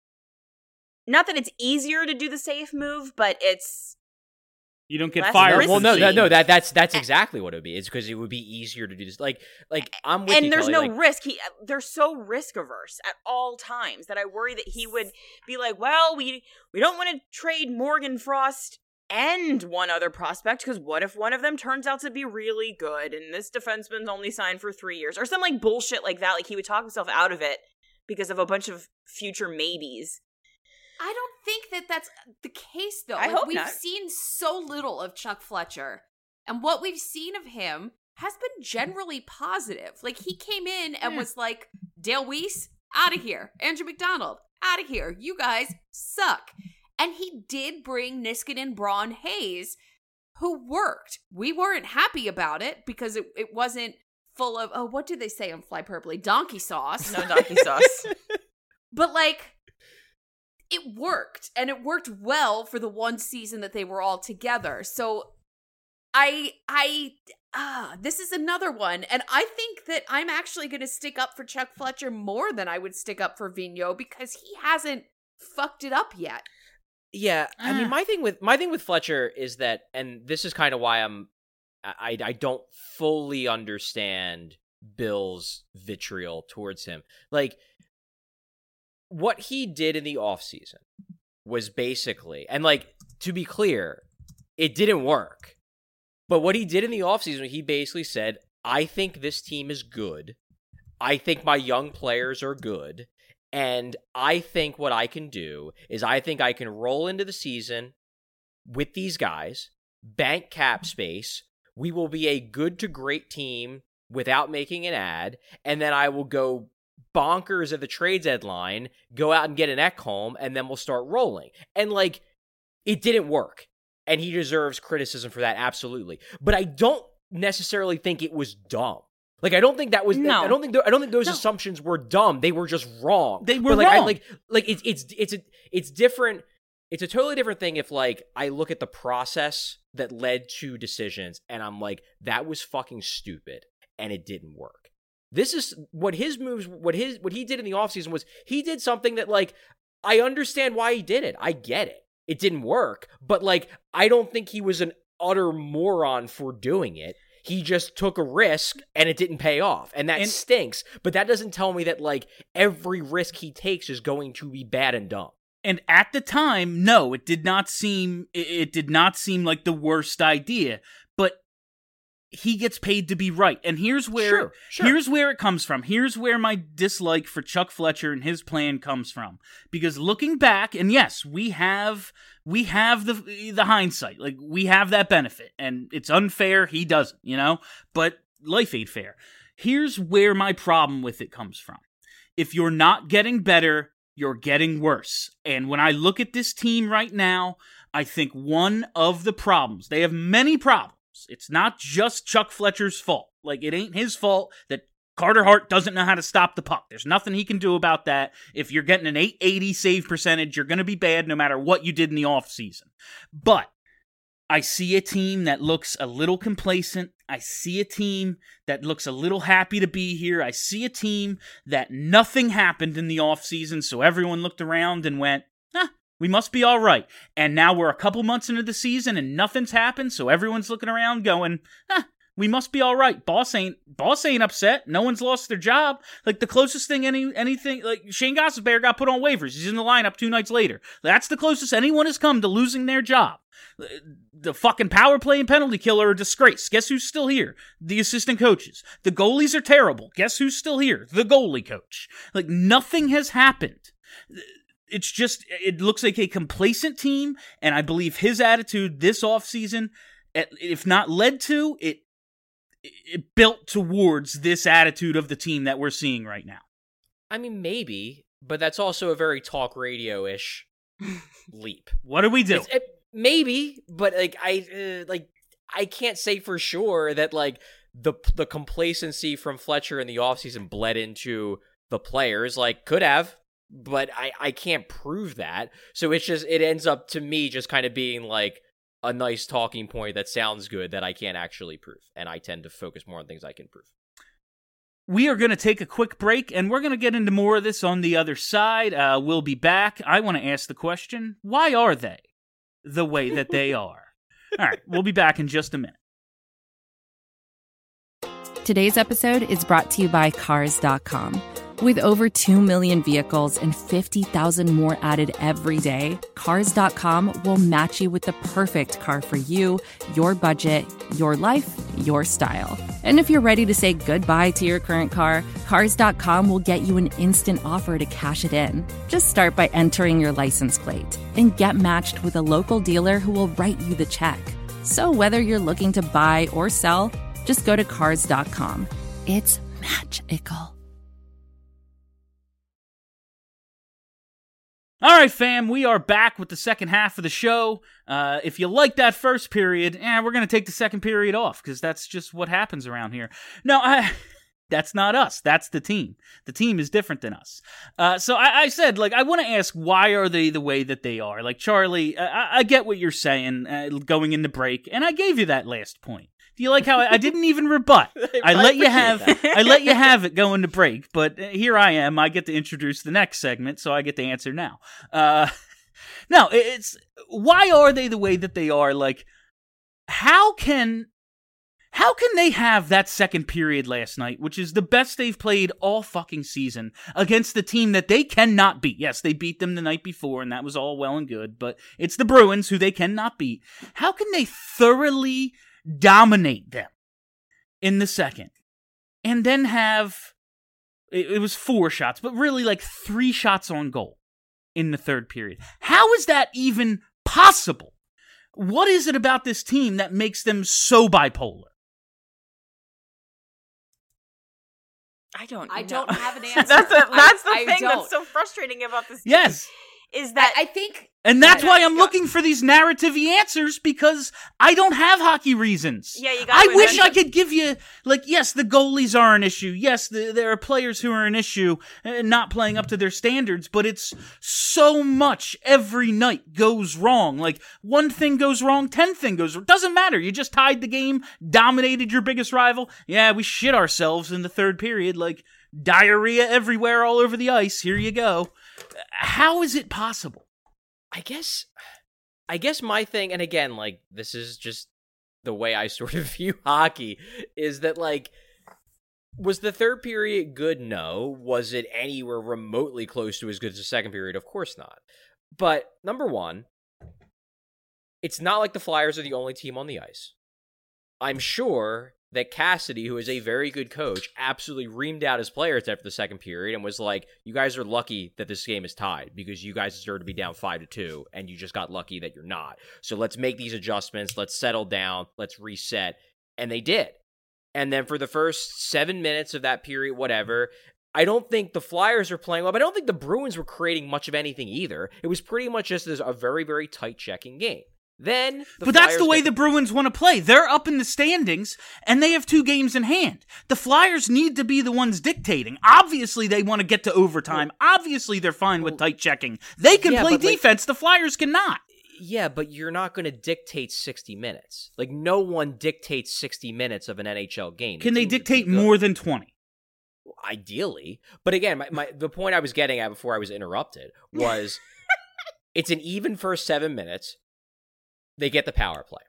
Speaker 6: not that it's easier to do the safe move, but it's
Speaker 3: You don't get
Speaker 6: Less
Speaker 3: fired.
Speaker 6: risky.
Speaker 5: Well, no, no, no. That that's that's
Speaker 6: And-
Speaker 5: exactly what it would be. It's because it would be easier to do this. Like, like I'm with you,
Speaker 6: and there's
Speaker 5: Kelly,
Speaker 6: no
Speaker 5: like,
Speaker 6: risk. He they're so risk averse at all times that I worry that he would be like, well, we we don't want to trade Morgan Frost and one other prospect, because what if one of them turns out to be really good and this defenseman's only signed for three years or some like bullshit like that. Like he would talk himself out of it because of a bunch of future maybes.
Speaker 4: I don't think that that's the case, though.
Speaker 6: I
Speaker 4: Like,
Speaker 6: hope
Speaker 4: we've
Speaker 6: not.
Speaker 4: seen so little of Chuck Fletcher, and what we've seen of him has been generally positive. Like, he came in and
Speaker 6: Yeah.
Speaker 4: was like, Dale Weiss, out of here. Andrew McDonald, out of here. You guys suck. And he did bring Niskanen, Braun, Hayes, who worked. We weren't happy about it because it, it wasn't full of, oh, what did they say on Fly Purpley? Donkey sauce.
Speaker 6: No donkey sauce.
Speaker 4: But, like, it worked, and it worked well for the one season that they were all together. So I I ah this is another one, and I think that I'm actually going to stick up for Chuck Fletcher more than I would stick up for Vigneault, because he hasn't fucked it up yet.
Speaker 5: Yeah, I
Speaker 3: Ah.
Speaker 5: mean, my thing with my thing with Fletcher is that, and this is kind of why I'm, I I don't fully understand Bill's vitriol towards him. Like, what he did in the offseason was basically, and like, to be clear, it didn't work. But what he did in the offseason, he basically said, I think this team is good. I think my young players are good. And I think what I can do is I think I can roll into the season with these guys, bank cap space. We will be a good to great team without making an ad. And then I will go bonkers at the trade deadline, go out and get an Ekholm, and then we'll start rolling. And like, it didn't work. And he deserves criticism for that, absolutely. But I don't necessarily think it was dumb. Like, I don't think that was.
Speaker 6: No.
Speaker 5: I don't think. th- I don't think those
Speaker 3: No.
Speaker 5: assumptions were dumb. They were just wrong.
Speaker 3: They were
Speaker 5: But, like, I,
Speaker 3: wrong.
Speaker 5: like, like it's it's it's a, it's different. It's a totally different thing if, like, I look at the process that led to decisions, and I'm like, that was fucking stupid, and it didn't work. This is what his moves, what his what he did in the offseason was he did something that, like, I understand why he did it. I get it. It didn't work, but like, I don't think he was an utter moron for doing it. He just took a risk and it didn't pay off. And that
Speaker 3: And-
Speaker 5: stinks. But that doesn't tell me that, like, every risk he takes is going to be bad and dumb.
Speaker 3: And at the time, no, it did not seem it, it did not seem like the worst idea, but he gets paid to be right. And here's where
Speaker 5: Sure, sure.
Speaker 3: here's where it comes from. Here's where my dislike for Chuck Fletcher and his plan comes from. Because looking back, and yes, we have we have the the hindsight. Like, we have that benefit, and it's unfair he doesn't, you know? But life ain't fair. Here's where my problem with it comes from. If you're not getting better, you're getting worse. And when I look at this team right now, I think one of the problems, they have many problems. It's not just Chuck Fletcher's fault. Like, it ain't his fault that Carter Hart doesn't know how to stop the puck. There's nothing he can do about that. If you're getting an eight eighty save percentage, you're going to be bad no matter what you did in the offseason. But I see a team that looks a little complacent. I see a team that looks a little happy to be here. I see a team that nothing happened in the offseason, so everyone looked around and went, ah, we must be all right. And now we're a couple months into the season and nothing's happened, so everyone's looking around going, ah, we must be all right. Boss ain't boss ain't upset. No one's lost their job. Like, the closest thing any anything like Shane Gostisbehere got put on waivers. He's in the lineup two nights later. That's the closest anyone has come to losing their job. The fucking power play and penalty killer are a disgrace. Guess who's still here? The assistant coaches. The goalies are terrible. Guess who's still here? The goalie coach. Like, nothing has happened. It's just, it looks like a complacent team, and I believe his attitude this offseason, if not led to, it it built towards this attitude of the team that we're seeing right now.
Speaker 5: I mean, maybe, but that's also a very talk radio-ish leap.
Speaker 3: What do we do?
Speaker 5: It's, it, maybe, but like I uh, like I can't say for sure that like the the complacency from Fletcher in the offseason bled into the players. Like, could have, but I I can't prove that. So it's just it ends up to me just kind of being like a nice talking point that sounds good that I can't actually prove, and I tend to focus more on things I can prove.
Speaker 3: We are going to take a quick break, and we're going to get into more of this on the other side. Uh, we'll be back. I want to ask the question, why are they the way that they are? All right, we'll be back in just a minute.
Speaker 7: Today's episode is brought to you by Cars dot com. With over two million vehicles and fifty thousand more added every day, Cars dot com will match you with the perfect car for you, your budget, your life, your style. And if you're ready to say goodbye to your current car, Cars dot com will get you an instant offer to cash it in. Just start by entering your license plate and get matched with a local dealer who will write you the check. So whether you're looking to buy or sell, just go to Cars dot com. It's magical.
Speaker 3: All right, fam, we are back with the second half of the show. Uh, if you like that first period, eh, we're going to take the second period off because that's just what happens around here. No, I, that's not us. That's the team. The team is different than us. Uh, so I, I said, like, I want to ask, why are they the way that they are? Like, Charlie, I, I get what you're saying uh, going into break, and I gave you that last point. Do you like how I, I didn't even rebut? I let you have I let you have it going to break, but here I am. I get to introduce the next segment, so I get to answer now. Uh, no, it's why are they the way that they are? Like, how can how can they have that second period last night, which is the best they've played all fucking season, against the team that they cannot beat? Yes, they beat them the night before, and that was all well and good, but it's the Bruins who they cannot beat. How can they thoroughly dominate them in the second and then have it, it was four shots but really like three shots on goal in the third period? How is that even possible? What is it about this team that makes them so bipolar?
Speaker 6: I don't
Speaker 4: I
Speaker 6: know.
Speaker 4: don't have an answer.
Speaker 6: that's a, that's
Speaker 4: I,
Speaker 6: the
Speaker 4: I
Speaker 6: thing
Speaker 4: don't.
Speaker 6: that's so frustrating about this team.
Speaker 3: Yes.
Speaker 6: Is that
Speaker 4: I, I think
Speaker 3: And that's
Speaker 6: Yeah,
Speaker 3: why I'm
Speaker 6: go-
Speaker 3: looking for these narrative-y answers, because I don't have hockey reasons.
Speaker 6: Yeah, you gotta
Speaker 3: I wish
Speaker 6: invent
Speaker 3: I could give you, like, yes, the goalies are an issue. Yes, the, there are players who are an issue and not playing up to their standards, but it's so much every night goes wrong. Like, one thing goes wrong, ten thing goes wrong. Doesn't matter. You just tied the game, dominated your biggest rival. Yeah, we shit ourselves in the third period, like, diarrhea everywhere all over the ice. Here you go. How is it possible?
Speaker 5: I guess, I guess my thing, and again, like, this is just the way I sort of view hockey is that, like, was the third period good? No. Was it anywhere remotely close to as good as the second period? Of course not. But, number one, it's not like the Flyers are the only team on the ice. I'm sure that Cassidy, who is a very good coach, absolutely reamed out his players after the second period and was like, you guys are lucky that this game is tied because you guys deserve to be down five to two and you just got lucky that you're not. So let's make these adjustments. Let's settle down. Let's reset. And they did. And then for the first seven minutes of that period, whatever, I don't think the Flyers were playing well, but I don't think the Bruins were creating much of anything either. It was pretty much just a very, very tight checking game. Then, the
Speaker 3: but that's
Speaker 5: Flyers
Speaker 3: the way
Speaker 5: get
Speaker 3: the Bruins want to play. They're up in the standings, and they have two games in hand. The Flyers need to be the ones dictating. Obviously, they want to get to overtime. Obviously, they're fine with tight checking. They can
Speaker 5: Yeah,
Speaker 3: play
Speaker 5: but, like-
Speaker 3: defense. The Flyers cannot.
Speaker 5: Yeah, but you're not going to dictate sixty minutes. Like, no one dictates sixty minutes of an N H L game.
Speaker 3: Can
Speaker 5: The
Speaker 3: they
Speaker 5: teams are
Speaker 3: dictate
Speaker 5: too good.
Speaker 3: more than twenty?
Speaker 5: Ideally. But again, my, my the point I was getting at before I was interrupted was it's an even first seven minutes. They get the power play.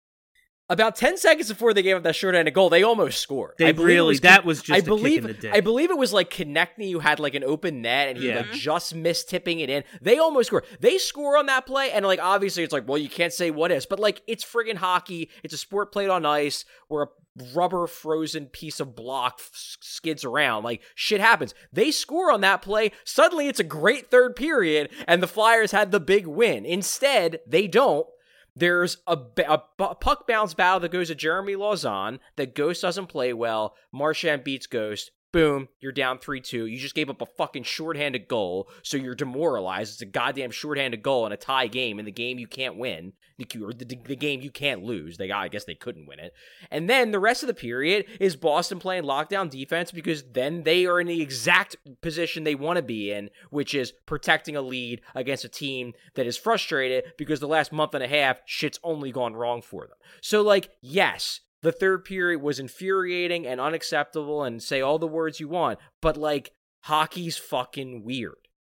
Speaker 5: About ten seconds before they gave up that shorthanded goal, they almost scored.
Speaker 3: They
Speaker 5: I believe it
Speaker 3: really-
Speaker 5: was,
Speaker 3: that was just
Speaker 5: I
Speaker 3: a kick
Speaker 5: believe,
Speaker 3: in the dick.
Speaker 5: I believe it was like Konechny who had like an open net and he
Speaker 3: Yeah.
Speaker 5: like just missed tipping it in. They almost scored. They score on that play and like obviously it's like, well, you can't say what is, but like it's friggin' hockey. It's a sport played on ice where a rubber frozen piece of block f- skids around. Like shit happens. They score on that play. Suddenly it's a great third period and the Flyers had the big win. Instead, they don't. There's a, a, a puck bounce battle that goes to Jeremy Lauzon that Ghost doesn't play well. Marchand beats Ghost. Boom, you're down three two. You just gave up a fucking shorthanded goal, so you're demoralized. It's a goddamn shorthanded goal in a tie game, in the game you can't win, or the, the game you can't lose. They, I guess they couldn't win it. And then the rest of the period is Boston playing lockdown defense because then they are in the exact position they want to be in, which is protecting a lead against a team that is frustrated because the last month and a half, shit's only gone wrong for them. So, like, yes, the third period was infuriating and unacceptable and say all the words you want, but, like, hockey's fucking weird.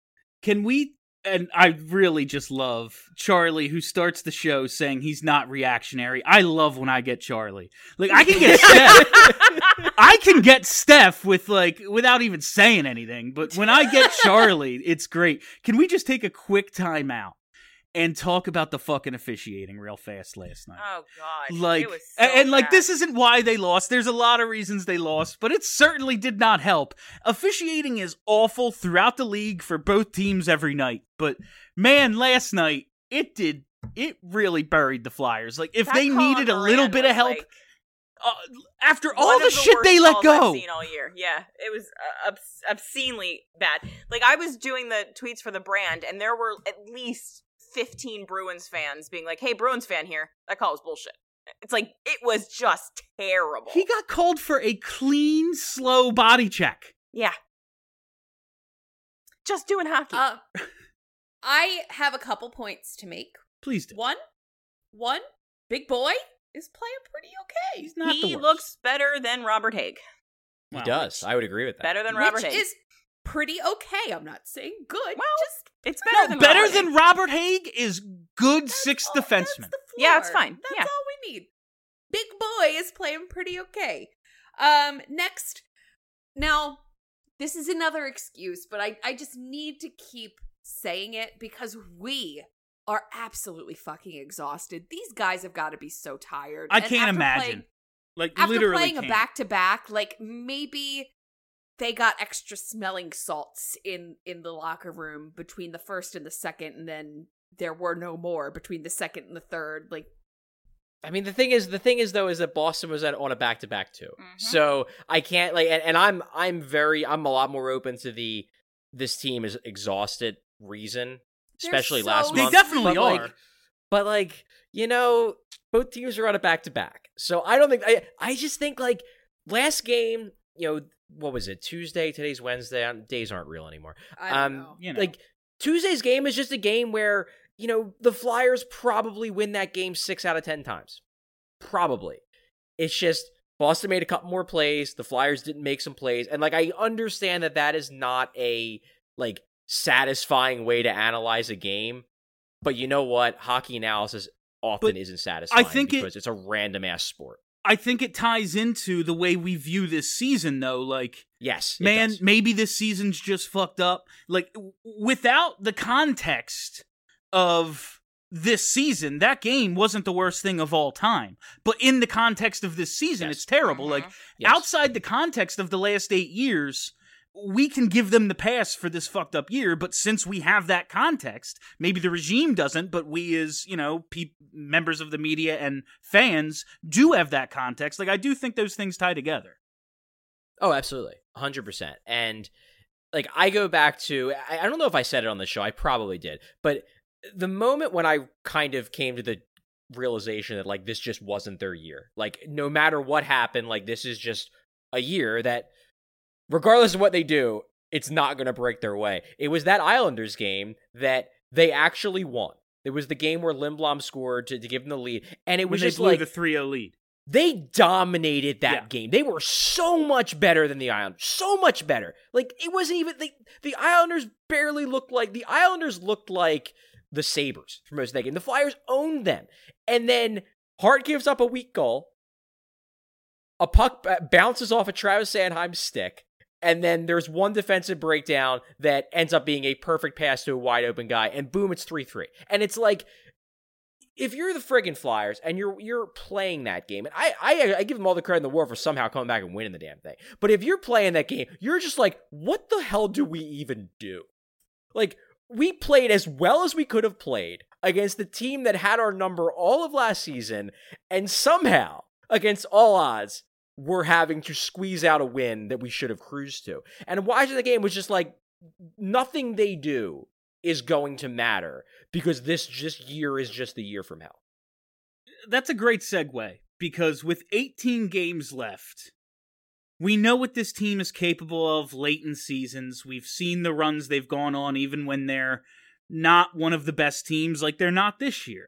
Speaker 3: Can we, and I really just love Charlie, who starts the show saying he's not reactionary. I love when I get Charlie. Like, I can get Steph. I can get Steph with, like, without even saying anything, but when I get Charlie, it's great. Can we just take a quick time out and talk about the fucking officiating real fast last night?
Speaker 6: Oh gosh,
Speaker 3: Like,
Speaker 6: it was so
Speaker 3: and, and like,
Speaker 6: bad.
Speaker 3: this isn't why they lost. There's a lot of reasons they lost, but it certainly did not help. Officiating is awful throughout the league for both teams every night. But man, last night, it did, it really buried the Flyers. Like, if
Speaker 6: That
Speaker 3: they
Speaker 6: call
Speaker 3: needed
Speaker 6: on
Speaker 3: a little
Speaker 6: Moran
Speaker 3: bit of
Speaker 6: was,
Speaker 3: help,
Speaker 6: like,
Speaker 3: uh, after
Speaker 6: one
Speaker 3: all
Speaker 6: of
Speaker 3: the shit
Speaker 6: worst
Speaker 3: they let
Speaker 6: calls
Speaker 3: go.
Speaker 6: I've seen all year. Yeah, it was uh, obs- obscenely bad. Like, I was doing the tweets for the brand, and there were at least fifteen Bruins fans being like, "Hey, Bruins fan here. That call was bullshit." It's like, it was just terrible.
Speaker 3: He got called for a clean, slow body check.
Speaker 6: yeah. Just doing hockey.
Speaker 4: Uh, I have a couple points to make.
Speaker 3: Please do.
Speaker 4: One, one, Big Boy is playing pretty okay.
Speaker 3: He's not the
Speaker 6: he
Speaker 3: worst.
Speaker 6: looks better than Robert Haig.
Speaker 5: He
Speaker 3: Wow.
Speaker 5: does. I would agree with that.
Speaker 6: Better than Robert
Speaker 4: Which
Speaker 6: Haig.
Speaker 4: is pretty okay. I'm not saying good.
Speaker 6: Well,
Speaker 4: just
Speaker 6: it's better
Speaker 3: No,
Speaker 6: than
Speaker 3: better
Speaker 6: Robert
Speaker 3: than
Speaker 6: Haig.
Speaker 3: Robert Haig is good
Speaker 4: that's
Speaker 3: sixth
Speaker 4: all-
Speaker 3: defenseman.
Speaker 4: That's the
Speaker 6: Yeah, it's
Speaker 4: floor.
Speaker 6: fine.
Speaker 4: That's
Speaker 6: Yeah.
Speaker 4: all we need. Big Boy is playing pretty okay. Um, next, now this is another excuse, but I I just need to keep saying it because we are absolutely fucking exhausted. These guys have got to be so tired.
Speaker 3: I
Speaker 4: And
Speaker 3: can't
Speaker 4: after
Speaker 3: imagine.
Speaker 4: playing-
Speaker 3: like,
Speaker 4: after
Speaker 3: literally
Speaker 4: playing a
Speaker 3: can't.
Speaker 4: back to back, like maybe they got extra smelling salts in in the locker room between the first and the second, and then there were no more between the second and the third. Like,
Speaker 5: I mean, the thing is, the thing is though, is that Boston was at, on a back to back too,
Speaker 6: Mhm.
Speaker 5: so I can't like, and, and I'm, I'm very, I'm a lot more open to the this team is exhausted reason, especially
Speaker 4: so-
Speaker 5: last
Speaker 3: They
Speaker 5: month.
Speaker 3: definitely
Speaker 5: but, like,
Speaker 3: are.
Speaker 5: but like, you know, both teams are on a back to back, so I don't think I, I just think like last game, you know, what was it? Tuesday. Today's Wednesday. Um, Days aren't real anymore.
Speaker 4: I don't
Speaker 5: um,
Speaker 4: know.
Speaker 3: You know.
Speaker 5: Like Tuesday's game is just a game where, you know, the Flyers probably win that game six out of ten times. Probably. It's just Boston made a couple more plays. The Flyers didn't make some plays. And, like, I understand that that is not a, like, satisfying way to analyze a game. But you know what? Hockey analysis often
Speaker 3: But
Speaker 5: isn't satisfying
Speaker 3: I think
Speaker 5: because
Speaker 3: it,
Speaker 5: it's a random ass sport.
Speaker 3: I think it ties into the way we view this season, though. Like,
Speaker 5: yes, it
Speaker 3: man,
Speaker 5: does.
Speaker 3: maybe this season's just fucked up. Like, w- without the context of this season, that game wasn't the worst thing of all time. But in the context of this season,
Speaker 5: Yes.
Speaker 3: it's terrible.
Speaker 6: Mhm.
Speaker 3: Like,
Speaker 5: Yes.
Speaker 3: outside the context of the last eight years, we can give them the pass for this fucked up year, but since we have that context, maybe the regime doesn't, but we as, you know, pe- members of the media and fans do have that context. Like, I do think those things tie together.
Speaker 5: Oh, absolutely. one hundred percent. And, like, I go back to, I, I don't know if I said it on the show, I probably did, but the moment when I kind of came to the realization that, like, this just wasn't their year. Like, no matter what happened, like, this is just a year that, regardless of what they do, it's not going to break their way. It was that Islanders game that they actually won. It was the game where Lindblom scored to, to give them the lead, and it
Speaker 3: When
Speaker 5: was
Speaker 3: they
Speaker 5: just
Speaker 3: blew
Speaker 5: like
Speaker 3: the three oh lead.
Speaker 5: they dominated that
Speaker 3: Yeah.
Speaker 5: game. They were so much better than the Islanders. So much better. Like, it wasn't even the the Islanders barely looked like the Islanders looked like the Sabres for most of that game. The Flyers owned them, and then Hart gives up a weak goal. A puck b- bounces off a Travis Sanheim stick. And then there's one defensive breakdown that ends up being a perfect pass to a wide open guy, and boom, it's three three. And it's like, if you're the friggin' Flyers and you're you're playing that game, and I, I I give them all the credit in the world for somehow coming back and winning the damn thing. But if you're playing that game, you're just like, what the hell do we even do? Like, we played as well as we could have played against the team that had our number all of last season, and somehow, against all odds, we're having to squeeze out a win that we should have cruised to. And watching the game was just like, nothing they do is going to matter because this just year is just the year from hell.
Speaker 3: That's a great segue, because with eighteen games left, we know what this team is capable of late in seasons. We've seen the runs they've gone on even when they're not one of the best teams, like they're not this year.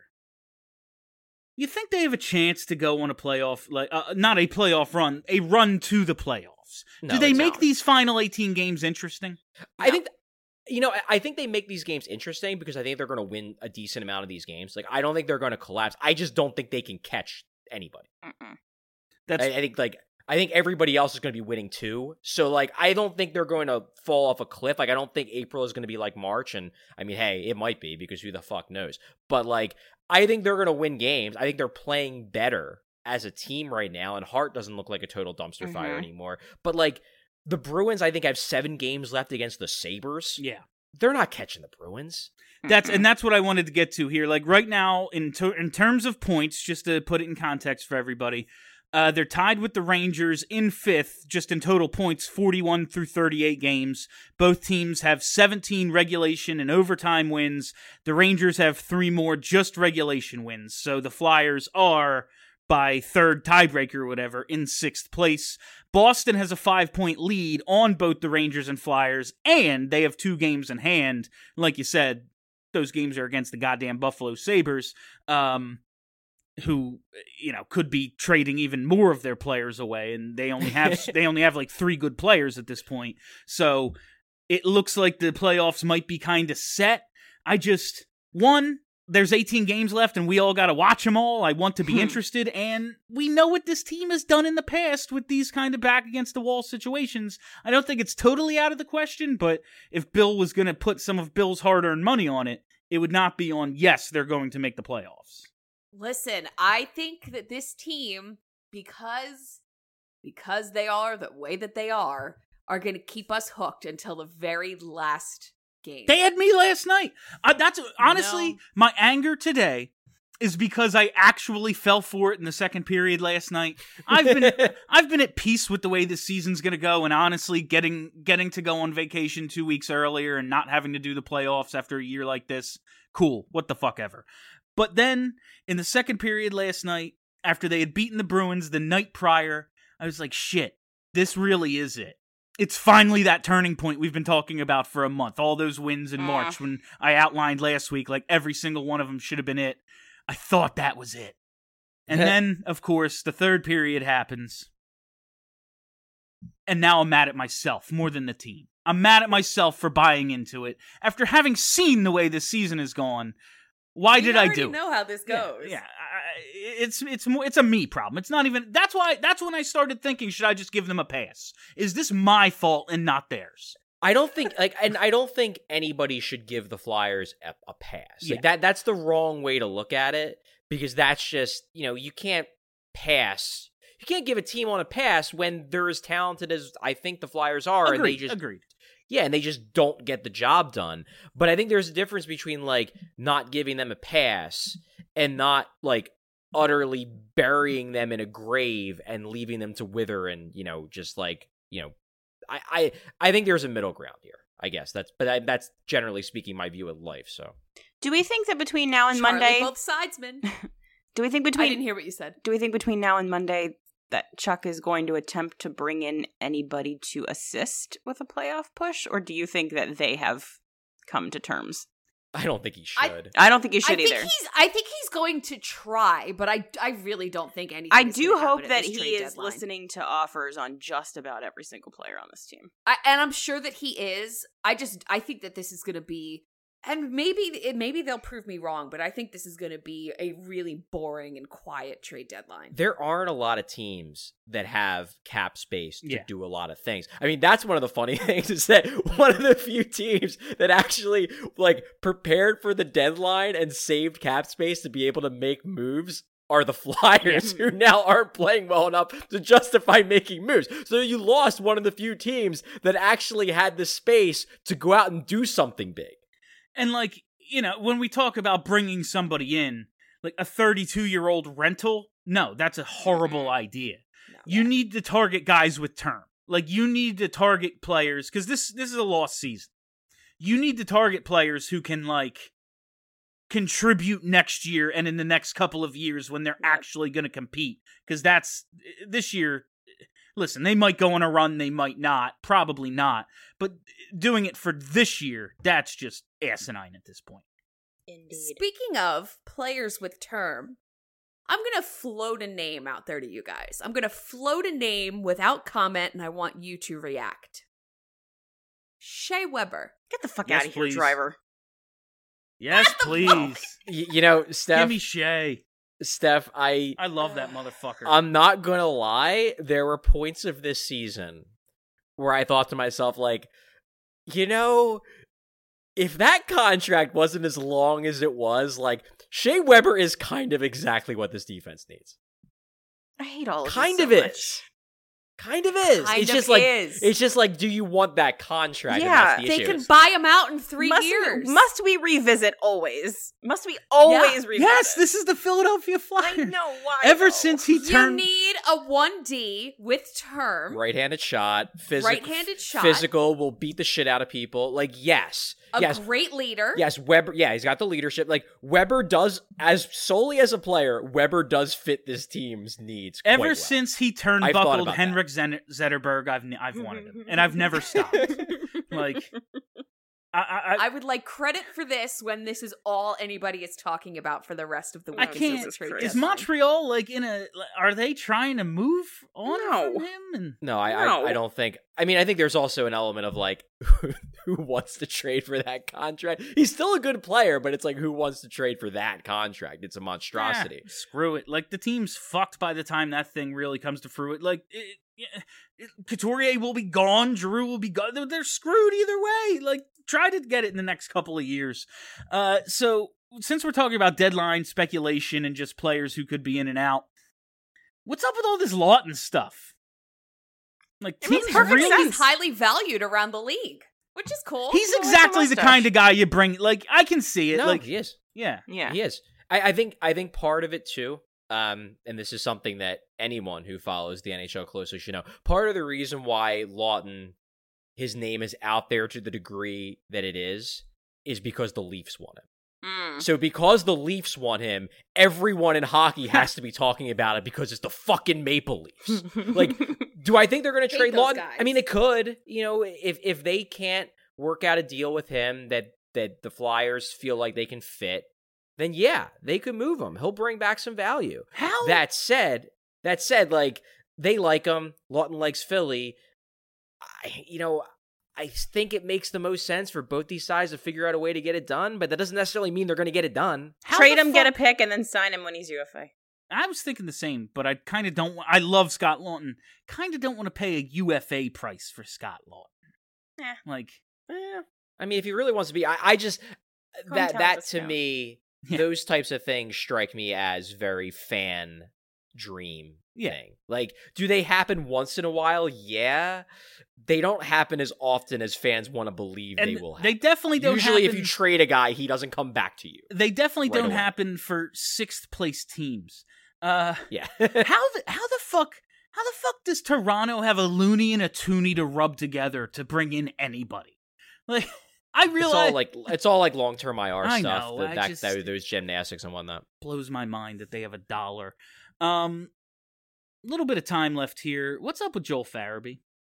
Speaker 3: You think they have a chance to go on a playoff, like uh, not a playoff run, a run to the playoffs?
Speaker 5: No,
Speaker 3: Do they
Speaker 5: they
Speaker 3: make
Speaker 5: don't.
Speaker 3: these final eighteen games interesting?
Speaker 5: I think, you know, I think they make these games interesting because I think they're going to win a decent amount of these games. Like, I don't think they're going to collapse. I just don't think they can catch anybody.
Speaker 6: Mm-mm.
Speaker 3: That's
Speaker 5: I, I think, like, I think everybody else is going to be winning too. So, like, I don't think they're going to fall off a cliff. Like, I don't think April is going to be like March. And, I mean, hey, it might be because who the fuck knows. But, like, I think they're going to win games. I think they're playing better as a team right now. And Hart doesn't look like a total dumpster
Speaker 6: Mhm.
Speaker 5: fire anymore. But, like, the Bruins, I think, have seven games left against the Sabres.
Speaker 3: yeah.
Speaker 5: They're not catching the Bruins.
Speaker 3: That's and that's what I wanted to get to here. Like right now, in ter- in terms of points, just to put it in context for everybody, uh, they're tied with the Rangers in fifth, just in total points, forty-one through thirty-eight games. Both teams have seventeen regulation and overtime wins. The Rangers have three more just regulation wins. So the Flyers are, by third tiebreaker or whatever, in sixth place. Boston has a five-point lead on both the Rangers and Flyers, and they have two games in hand. Like you said, those games are against the goddamn Buffalo Sabres, um, who, you know, could be trading even more of their players away, and they only have they only have like three good players at this point. So it looks like the playoffs might be kind of set. I just, one, there's eighteen games left, and we all got to watch them all. I want to be interested, and we know what this team has done in the past with these kind of back-against-the-wall situations. I don't think it's totally out of the question, but if Bill was going to put some of Bill's hard-earned money on it, it would not be on, yes, they're going to make the playoffs.
Speaker 4: Listen, I think that this team, because because they are the way that they are, are going to keep us hooked until the very last game.
Speaker 3: They had me last night. Uh, that's honestly
Speaker 4: No.
Speaker 3: my anger today is because I actually fell for it in the second period last night. I've been I've been at peace with the way this season's going to go, and honestly, getting getting to go on vacation two weeks earlier and not having to do the playoffs after a year like this, cool. What the fuck ever. But then in the second period last night, after they had beaten the Bruins the night prior, I was like, shit, this really is it. It's finally that turning point we've been talking about for a month. All those wins in March when I outlined last week, like every single one of them should have been it. I thought that was it. And then, of course, the third period happens. And now I'm mad at myself more than the team. I'm mad at myself for buying into it. After having seen the way this season has gone, Why
Speaker 4: You
Speaker 3: did I
Speaker 4: already
Speaker 3: do it?
Speaker 4: know how this
Speaker 3: Yeah,
Speaker 4: goes.
Speaker 3: Yeah, I, it's it's more it's a me problem. It's not even. That's why. That's when I started thinking, should I just give them a pass? Is this my fault and not theirs?
Speaker 5: I don't think like, and I don't think anybody should give the Flyers a, a pass.
Speaker 3: Yeah.
Speaker 5: Like that, that's the wrong way to look at it, because that's just, you know, you can't pass. You can't give a team on a pass when they're as talented as I think the Flyers are,
Speaker 3: Agreed.
Speaker 5: and they just
Speaker 3: agreed.
Speaker 5: yeah, and they just don't get the job done. But I think there's a difference between like not giving them a pass and not like utterly burying them in a grave and leaving them to wither and, you know, just like, you know, I, I, I think there's a middle ground here, I guess. That's but I, that's generally speaking my view of life. So,
Speaker 6: Do we think that between now and
Speaker 4: Charlie,
Speaker 6: Monday,
Speaker 4: both sidesmen.
Speaker 6: do we think
Speaker 4: I
Speaker 6: between
Speaker 4: didn't hear what you said.
Speaker 6: do we think between now and Monday that Chuck is going to attempt to bring in anybody to assist with a playoff push, or do you think that they have come to terms?
Speaker 5: I don't think he
Speaker 4: I-
Speaker 5: should.
Speaker 6: I don't think you
Speaker 4: I
Speaker 6: should
Speaker 4: think
Speaker 6: either.
Speaker 4: he's. I think he's going to try, but I. I really don't think anything.
Speaker 6: I
Speaker 4: is
Speaker 6: do
Speaker 4: gonna happen
Speaker 6: hope
Speaker 4: at
Speaker 6: that
Speaker 4: this
Speaker 6: he
Speaker 4: trade
Speaker 6: is
Speaker 4: deadline.
Speaker 6: listening to offers on just about every single player on this team.
Speaker 4: I, and I'm sure that he is. I just. I think that this is going to be, and maybe it, maybe they'll prove me wrong, but I think this is going to be a really boring and quiet trade deadline.
Speaker 5: There aren't a lot of teams that have cap space to
Speaker 3: Yeah.
Speaker 5: do a lot of things. I mean, that's one of the funny things is that one of the few teams that actually like prepared for the deadline and saved cap space to be able to make moves are the Flyers, who now aren't playing well enough to justify making moves. So you lost one of the few teams that actually had the space to go out and do something big.
Speaker 3: And like, you know, when we talk about bringing somebody in, like a thirty-two-year-old rental, no, that's a horrible idea.
Speaker 4: No.
Speaker 3: You need to target guys with term. Like, you need to target players, because this this is a lost season. You need to target players who can, like, contribute next year and in the next couple of years when they're actually going to compete. Because that's, this year, listen, they might go on a run, they might not, probably not. But doing it for this year, that's just asinine at this point.
Speaker 6: Indeed.
Speaker 4: Speaking of players with term, I'm going to float a name out there to you guys. I'm going to float a name without comment, and I want you to react. Shea Weber.
Speaker 6: Get the fuck
Speaker 3: Yes,
Speaker 6: out of here,
Speaker 3: please.
Speaker 6: driver.
Speaker 3: Yes,
Speaker 4: What the
Speaker 3: please.
Speaker 4: fuck?
Speaker 5: Y- you know, Steph,
Speaker 3: Give me Shea.
Speaker 5: Steph, I
Speaker 3: I love that motherfucker.
Speaker 5: I'm not gonna lie, there were points of this season where I thought to myself, like, you know, if that contract wasn't as long as it was, like, Shea Weber is kind of exactly what this defense needs.
Speaker 6: I hate all of
Speaker 5: Kind
Speaker 6: this
Speaker 5: of
Speaker 6: so
Speaker 5: is.
Speaker 6: much.
Speaker 5: Kind of is.
Speaker 4: Kind
Speaker 5: it's
Speaker 4: of
Speaker 5: just like
Speaker 4: is.
Speaker 5: it's just like, do you want that contract? And
Speaker 6: Yeah,
Speaker 5: that's the
Speaker 4: They
Speaker 5: issue.
Speaker 4: can buy him out in three
Speaker 6: must
Speaker 4: years.
Speaker 6: We, must we revisit always? Must we always revisit?
Speaker 3: yes, this is the Philadelphia Flyers.
Speaker 6: I know why.
Speaker 3: Ever
Speaker 6: though.
Speaker 3: since he
Speaker 4: You
Speaker 3: turned,
Speaker 4: need a one D with term.
Speaker 5: right-handed shot, physical,
Speaker 4: Right-handed shot.
Speaker 5: physical, will beat the shit out of people. Like, yes,
Speaker 4: A
Speaker 5: yes,
Speaker 4: great leader.
Speaker 5: yes. Weber, yeah, he's got the leadership. Like, Weber does, as solely as a player, Weber does fit this team's needs. quite
Speaker 3: ever
Speaker 5: well.
Speaker 3: since he turned
Speaker 5: I've thought
Speaker 3: buckled
Speaker 5: about
Speaker 3: Henrik Zen- Zetterberg, I've n- I've wanted him, and I've never stopped. Like, I I, I,
Speaker 4: I would like credit for this when this is all anybody is talking about for the rest of the week.
Speaker 3: I
Speaker 4: until
Speaker 3: can't.
Speaker 4: the trade
Speaker 3: Is
Speaker 4: deadline.
Speaker 3: Montreal like in a? Are they trying to move on
Speaker 6: No.
Speaker 3: from him? And
Speaker 5: No, I,
Speaker 6: No.
Speaker 5: I I don't think. I mean, I think there's also an element of like, who wants to trade for that contract? He's still a good player, but it's like, who wants to trade for that contract? It's a monstrosity.
Speaker 3: Eh, screw it. Like, the team's fucked by the time that thing really comes to fruit. Like, it, it, it, Couturier will be gone. Giroux will be gone. They're, they're screwed either way. Like, try to get it in the next couple of years. Uh, so, since we're talking about deadline speculation and just players who could be in and out, what's up with all this Lawton stuff? Like,
Speaker 6: It makes
Speaker 3: teams
Speaker 6: perfect
Speaker 3: really...
Speaker 4: He's highly valued around the league, which is cool.
Speaker 3: He's
Speaker 6: He likes a
Speaker 3: exactly the
Speaker 6: mustache.
Speaker 3: kind of guy you bring. Like, I can see it.
Speaker 5: No,
Speaker 3: like,
Speaker 5: he is.
Speaker 3: yeah.
Speaker 6: Yeah.
Speaker 5: He is. I, I think. I think part of it too. Um, and this is something that anyone who follows the N H L closely should know. Part of the reason why Lawton, his name is out there to the degree that it is, is because the Leafs want him.
Speaker 6: Mm.
Speaker 5: So because the Leafs want him, everyone in hockey has to be talking about it because it's the fucking Maple Leafs. Like, do I think they're going to
Speaker 4: Hate
Speaker 5: trade
Speaker 4: those
Speaker 5: Lawton?
Speaker 4: guys.
Speaker 5: I mean, they could. You know, if if they can't work out a deal with him that that the Flyers feel like they can fit, then yeah, they could move him. He'll bring back some value.
Speaker 3: How?
Speaker 5: That said, that said, like, they like him. Lawton likes Philly. I, you know, I think it makes the most sense for both these sides to figure out a way to get it done, but that doesn't necessarily mean they're going to get it done.
Speaker 3: How
Speaker 6: Trade
Speaker 3: the
Speaker 6: him,
Speaker 3: fuck-
Speaker 6: get a pick, and then sign him when he's U F A.
Speaker 3: I was thinking the same, but I kind of don't. wa- I love Scott Lawton. Kind of don't want to pay a U F A price for Scott Lawton.
Speaker 6: Eh.
Speaker 3: Like,
Speaker 5: Eh, I mean, if he really wants to be, I, I just that
Speaker 6: Hometown
Speaker 5: that to
Speaker 6: discount.
Speaker 5: me,
Speaker 3: Yeah.
Speaker 5: those types of things strike me as very fan dream
Speaker 3: Yeah.
Speaker 5: thing. Like, do they happen once in a while? Yeah, they don't happen as often as fans want to believe
Speaker 3: and
Speaker 5: they will.
Speaker 3: they
Speaker 5: Happen.
Speaker 3: definitely don't.
Speaker 5: Usually,
Speaker 3: happen,
Speaker 5: if you trade a guy, he doesn't come back to you.
Speaker 3: they definitely
Speaker 5: right
Speaker 3: don't
Speaker 5: away.
Speaker 3: happen for sixth place teams. Uh,
Speaker 5: Yeah.
Speaker 3: how the how the fuck how the fuck does Toronto have a Looney and a Tooney to rub together to bring in anybody? Like, I
Speaker 5: It's
Speaker 3: realize
Speaker 5: all like it's all like long term I R
Speaker 3: I
Speaker 5: stuff.
Speaker 3: know,
Speaker 5: the-
Speaker 3: I
Speaker 5: that,
Speaker 3: just-
Speaker 5: that- those gymnastics and whatnot.
Speaker 3: blows my mind that they have a dollar. Um, a little bit of time left here. What's up with Joel Farabee?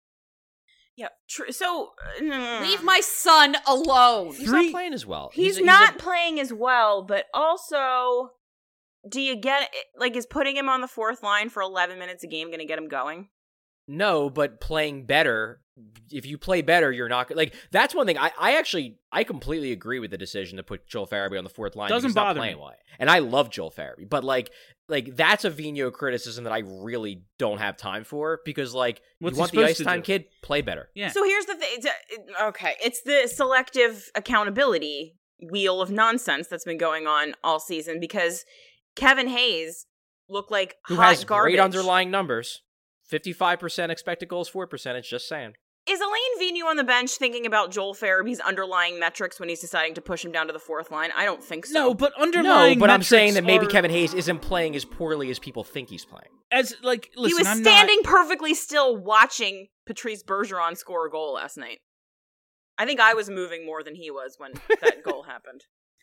Speaker 6: Yeah. Tr- so uh,
Speaker 4: Leave my son alone.
Speaker 5: He's
Speaker 3: Three-
Speaker 5: not playing as well.
Speaker 6: He's,
Speaker 5: a- a-
Speaker 6: not playing as well, but also, do you get like is putting him on the fourth line for eleven minutes a game going to get him going?
Speaker 5: No, but playing better. If you play better, you're not like. That's one thing. I, I actually I completely agree with the decision to put Joel Farabee on the fourth line.
Speaker 3: Doesn't
Speaker 5: because he's not
Speaker 3: bother
Speaker 5: playing
Speaker 3: me.
Speaker 5: well. And I love Joel Farabee, but like like that's a Vigneault criticism that I really don't have time for because like
Speaker 3: What's
Speaker 5: you
Speaker 3: he
Speaker 5: want the
Speaker 3: supposed
Speaker 5: ice
Speaker 3: to
Speaker 5: time
Speaker 3: do?
Speaker 5: kid, play better.
Speaker 3: Yeah.
Speaker 6: So here's the thing. It's a- Okay, it's the selective accountability wheel of nonsense that's been going on all season because Kevin Hayes looked like
Speaker 5: Who
Speaker 6: hot
Speaker 5: has
Speaker 6: garbage.
Speaker 5: great underlying numbers, fifty-five percent expected goals, four percentage. Just saying.
Speaker 6: Is Elaine Vigneault on the bench thinking about Joel Farabee's underlying metrics when he's deciding to push him down to the fourth line? I don't think so.
Speaker 3: No, but underlying
Speaker 5: No, but I'm saying
Speaker 3: metrics
Speaker 5: that maybe
Speaker 3: are-
Speaker 5: Kevin Hayes isn't playing as poorly as people think he's playing.
Speaker 3: as like listen,
Speaker 6: he was
Speaker 3: I'm
Speaker 6: standing
Speaker 3: Not,
Speaker 6: perfectly still watching Patrice Bergeron score a goal last night. I think I was moving more than he was when that goal happened.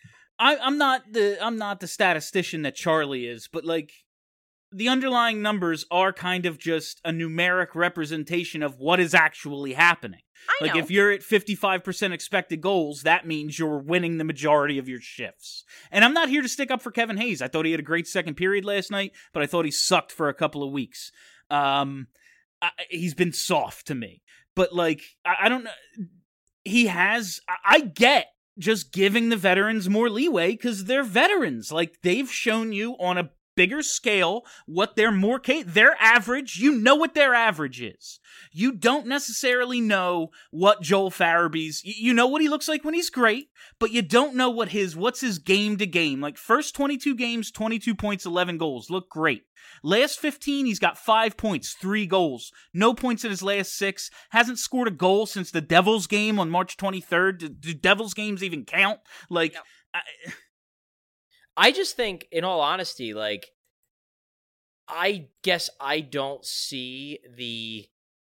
Speaker 3: I, I'm not the I'm not the statistician that Charlie is, but like the underlying numbers are kind of just a numeric representation of what is actually happening.
Speaker 6: I
Speaker 3: Like
Speaker 6: know.
Speaker 3: if you're at fifty-five percent expected goals, that means you're winning the majority of your shifts. And I'm not here to stick up for Kevin Hayes. I thought he had a great second period last night, but I thought he sucked for a couple of weeks. Um, I, he's been soft to me. But like, I, I don't know. He has. I, I get just giving the veterans more leeway because they're veterans. Like they've shown you on a bigger scale what they're more ca- their average. You know what their average is. You don't necessarily know what Joel Farabee's. y- You know what he looks like when he's great, but you don't know what his what's his game to game. Like first twenty-two games, twenty-two points, eleven goals, look great. Last fifteen, he's got five points, three goals, no points in his last six. Hasn't scored a goal since the Devils game on March twenty-third. Do, do Devils games even count? Like.
Speaker 6: No.
Speaker 3: I,
Speaker 5: I just think, in all honesty, like, I guess I don't see the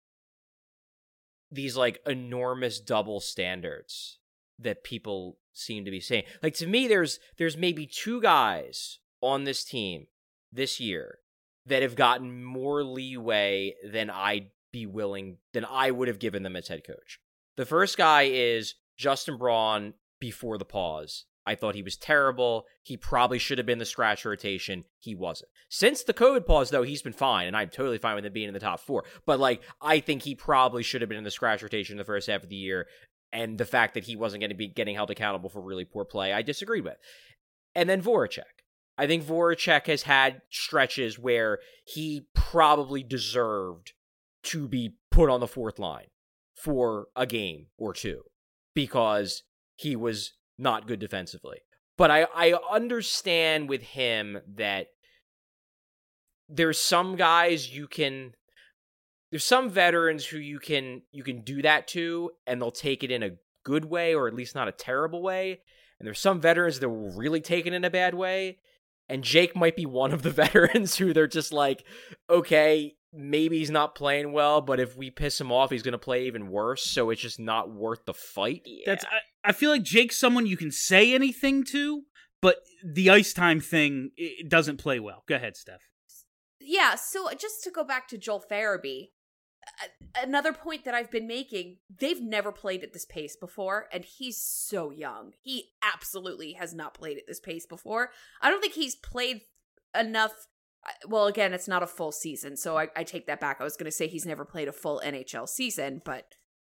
Speaker 5: these like enormous double standards that people seem to be saying. Like to me, there's there's maybe two guys on this team this year that have gotten more leeway than I'd be willing than I would have given them as head coach. The first guy is Justin Braun before the pause. I thought he was terrible. He probably should have been the scratch rotation. He wasn't. Since the COVID pause, though, he's been fine, and I'm totally fine with him being in the top four. But, like, I think he probably should have been in the scratch rotation the first half of the year, and the fact that he wasn't going to be getting held accountable for really poor play, I disagreed with. And then Voracek. I think Voracek has had stretches where he probably deserved to be put on the fourth line for a game or two because he was not good defensively. But I, I understand with him that there's some guys you can there's some veterans who you can you can do that to and they'll take it in a good way or at least not a terrible way. And there's some veterans that will really take it in a bad way. And Jake might be one of the veterans who they're just like, okay, maybe he's not playing well, but if we piss him off, he's going to play even worse. So it's just not worth the fight.
Speaker 6: Yeah.
Speaker 3: That's I, I feel like Jake's someone you can say anything to, but the ice time thing it doesn't play well. Go ahead, Steph.
Speaker 4: Yeah, so just to go back to Joel Farabee, a- another point that I've been making, they've never played at this pace before, and he's so young. He absolutely has not played at this pace before. I don't think he's played enough. Well, again, it's not a full season, so I, I take that back. I was going to say he's never played a full N H L season, but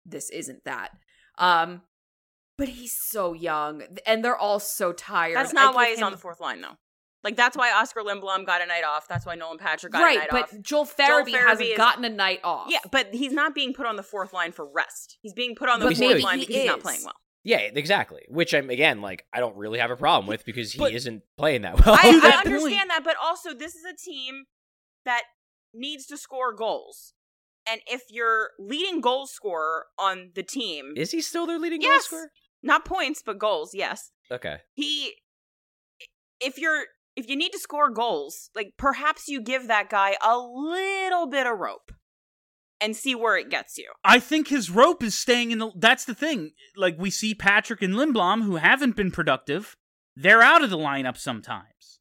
Speaker 4: this isn't that. Um, but he's so young, and they're all so tired.
Speaker 6: That's not
Speaker 4: I
Speaker 6: why
Speaker 4: give
Speaker 6: he's
Speaker 4: him-
Speaker 6: on the fourth line, though. Like, that's why Oscar Lindblom got a night off. That's why Nolan Patrick got
Speaker 4: right,
Speaker 6: a night
Speaker 4: but
Speaker 6: off.
Speaker 4: Joel Farabee,
Speaker 6: Joel Farabee
Speaker 4: hasn't
Speaker 6: is-
Speaker 4: gotten a night off.
Speaker 6: Yeah, but he's not being put on the fourth line for rest. He's being put on the
Speaker 4: But
Speaker 6: fourth
Speaker 4: maybe
Speaker 6: line
Speaker 4: he
Speaker 6: because he's not
Speaker 4: is.
Speaker 6: playing well.
Speaker 5: Yeah, exactly. Which I'm again like I don't really have a problem with because he
Speaker 3: But-
Speaker 5: isn't playing that well.
Speaker 6: I,
Speaker 3: To
Speaker 6: I
Speaker 3: that point-
Speaker 6: understand that, but also this is a team that needs to score goals. And if your leading goal scorer on the team,
Speaker 5: Is he still their leading
Speaker 6: Yes.
Speaker 5: goal scorer?
Speaker 6: not points, but goals, yes.
Speaker 5: Okay.
Speaker 6: He, if you're, if you need to score goals, like perhaps you give that guy a little bit of rope and see where it gets you.
Speaker 3: I think his rope is staying in the. That's the thing. Like, we see Patrick and Lindblom, who haven't been productive, they're out of the lineup sometimes.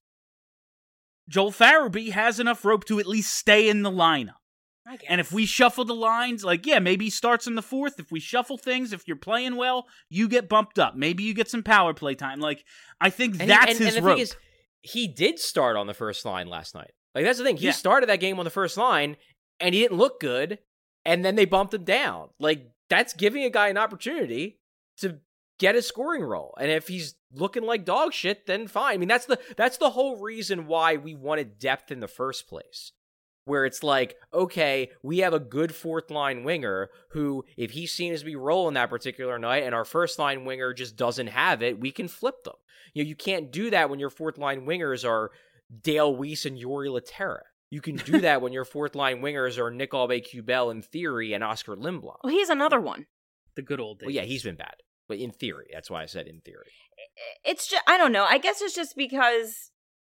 Speaker 3: Joel Farabee has enough rope to at least stay in the lineup.
Speaker 6: I guess.
Speaker 3: And if we shuffle the lines, like, yeah, maybe he starts in the fourth. If we shuffle things, if you're playing well, you get bumped up. Maybe you get some power play time. Like, I think
Speaker 5: And
Speaker 3: that's
Speaker 5: he, and,
Speaker 3: his
Speaker 5: and the
Speaker 3: rope.
Speaker 5: thing is, he did start on the first line last night. Like that's the thing. He
Speaker 3: Yeah.
Speaker 5: started that game on the first line, and he didn't look good. And then they bumped him down. Like that's giving a guy an opportunity to get a scoring role. And if he's looking like dog shit, then fine. I mean, that's the that's the whole reason why we wanted depth in the first place. Where it's like, okay, we have a good fourth line winger who, if he seems to be rolling that particular night and our first line winger just doesn't have it, we can flip them. You know, you can't do that when your fourth line wingers are Dale Weiss and Yori Laterra. You can do that when your fourth line wingers are Nick Aube-Kubel in theory and Oscar Lindblom.
Speaker 6: Well, he's another one.
Speaker 3: The good old days.
Speaker 5: Well, yeah, he's been bad. But in theory, that's why I said in theory.
Speaker 6: It's just, I don't know. I guess it's just because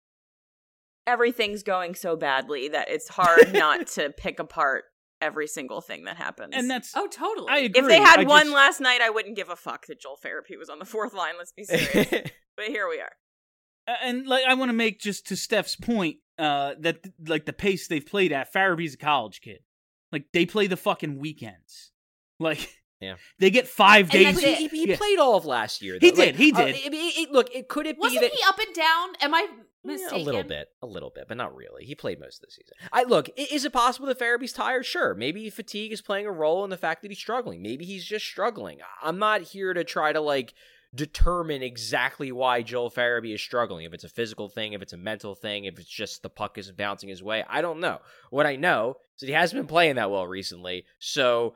Speaker 6: everything's going so badly that it's hard not to pick apart every single thing that happens.
Speaker 3: And that's.
Speaker 4: Oh, totally.
Speaker 3: I agree.
Speaker 6: if they had
Speaker 3: I
Speaker 6: won
Speaker 3: just-
Speaker 6: last night, I wouldn't give a fuck that Joel Farabee was on the fourth line. Let's be serious. But here we are.
Speaker 3: And like I want to make just to Steph's point, uh, that like the pace they've played at, Farabee's a college kid. Like they play the fucking weekends. Like
Speaker 5: Yeah.
Speaker 3: they get five
Speaker 4: And
Speaker 3: days.
Speaker 4: that's
Speaker 5: he,
Speaker 4: it.
Speaker 5: he, he
Speaker 3: Yeah.
Speaker 5: played all of last year.
Speaker 3: He
Speaker 5: though.
Speaker 3: did, he
Speaker 5: uh,
Speaker 3: did.
Speaker 5: it- it- it- look, it could it be
Speaker 4: Wasn't
Speaker 5: that
Speaker 4: he up and down? Am I mistaken?
Speaker 5: Yeah, a little bit, a little bit, but not really. He played most of the season. I look. i- Is it possible that Farabee's tired? Sure. Maybe fatigue is playing a role in the fact that he's struggling. Maybe he's just struggling. I'm not here to try to like determine exactly why Joel Farabee is struggling. If it's a physical thing, if it's a mental thing, if it's just the puck isn't bouncing his way. I don't know. What I know is that he hasn't been playing that well recently. So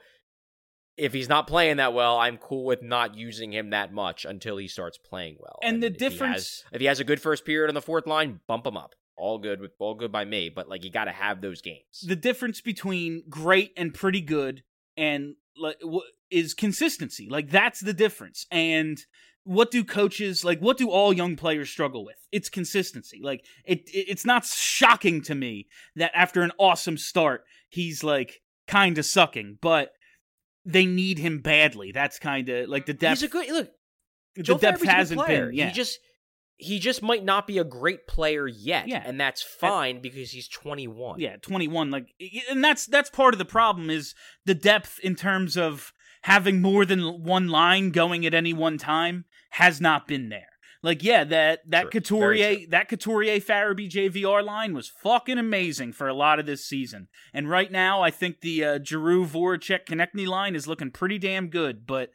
Speaker 5: if he's not playing that well, I'm cool with not using him that much until he starts playing well.
Speaker 3: And the
Speaker 5: if he has-
Speaker 3: difference-
Speaker 5: if he has a good first period on the fourth line, bump him up. All good with all good by me, but like you got to have those games.
Speaker 3: The difference between great and pretty good and like w- is consistency. Like that's the difference. And what do coaches like? What do all young players struggle with? It's consistency. Like it, it it's not shocking to me that after an awesome start, he's like kind of sucking, but they need him badly. That's kind of like the depth.
Speaker 5: He's a good look.
Speaker 3: the
Speaker 5: Joel
Speaker 3: depth
Speaker 5: Farabee's a good
Speaker 3: hasn't
Speaker 5: player.
Speaker 3: been. Yeah.
Speaker 5: He just he just might not be a great player yet,
Speaker 3: Yeah.
Speaker 5: and that's fine because he's twenty-one.
Speaker 3: Yeah, twenty-one. Like, and that's that's part of the problem is the depth in terms of having more than one line going at any one time has not been there. Like, yeah, that that
Speaker 5: True. Very
Speaker 3: Couturier
Speaker 5: true.
Speaker 3: that Couturier Farabee J V R line was fucking amazing for a lot of this season. And right now, I think the uh, Giroux Voracek Konechny line is looking pretty damn good. But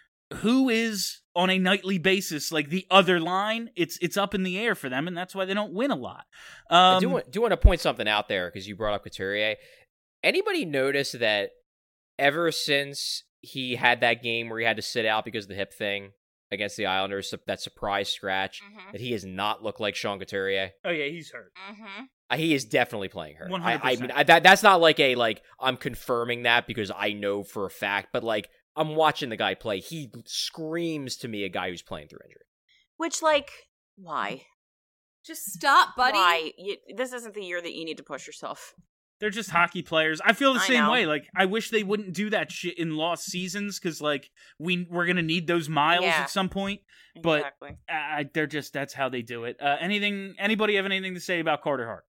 Speaker 3: who is on a nightly basis like the other line? It's it's up in the air for them, and that's why they don't win a lot. Um,
Speaker 5: I do want, do want to point something out there because you brought up Couturier. Anybody notice that ever since he had that game where he had to sit out because of the hip thing against the Islanders, that surprise scratch,
Speaker 6: Mhm.
Speaker 5: that he has not looked like Sean Couturier?
Speaker 3: Oh yeah, he's hurt.
Speaker 6: Mm-hmm.
Speaker 5: Uh, He is definitely playing hurt.
Speaker 3: one
Speaker 5: I,
Speaker 3: hundred
Speaker 5: I
Speaker 3: percent.
Speaker 5: mean, I, that that's not like a like I'm confirming that because I know for a fact, but like I'm watching the guy play. He screams to me a guy who's playing through injury.
Speaker 6: Which, like, why?
Speaker 4: Just stop, buddy.
Speaker 6: Why? You, this isn't the year that you need to push yourself.
Speaker 3: They're just hockey players. I feel the
Speaker 6: I
Speaker 3: same
Speaker 6: know.
Speaker 3: way. Like, I wish they wouldn't do that shit in lost seasons because, like, we we're gonna need those miles
Speaker 6: Yeah.
Speaker 3: at some point. But
Speaker 6: Exactly.
Speaker 3: uh, they're just that's how they do it. Uh, anything? Anybody have anything to say about Carter Hart?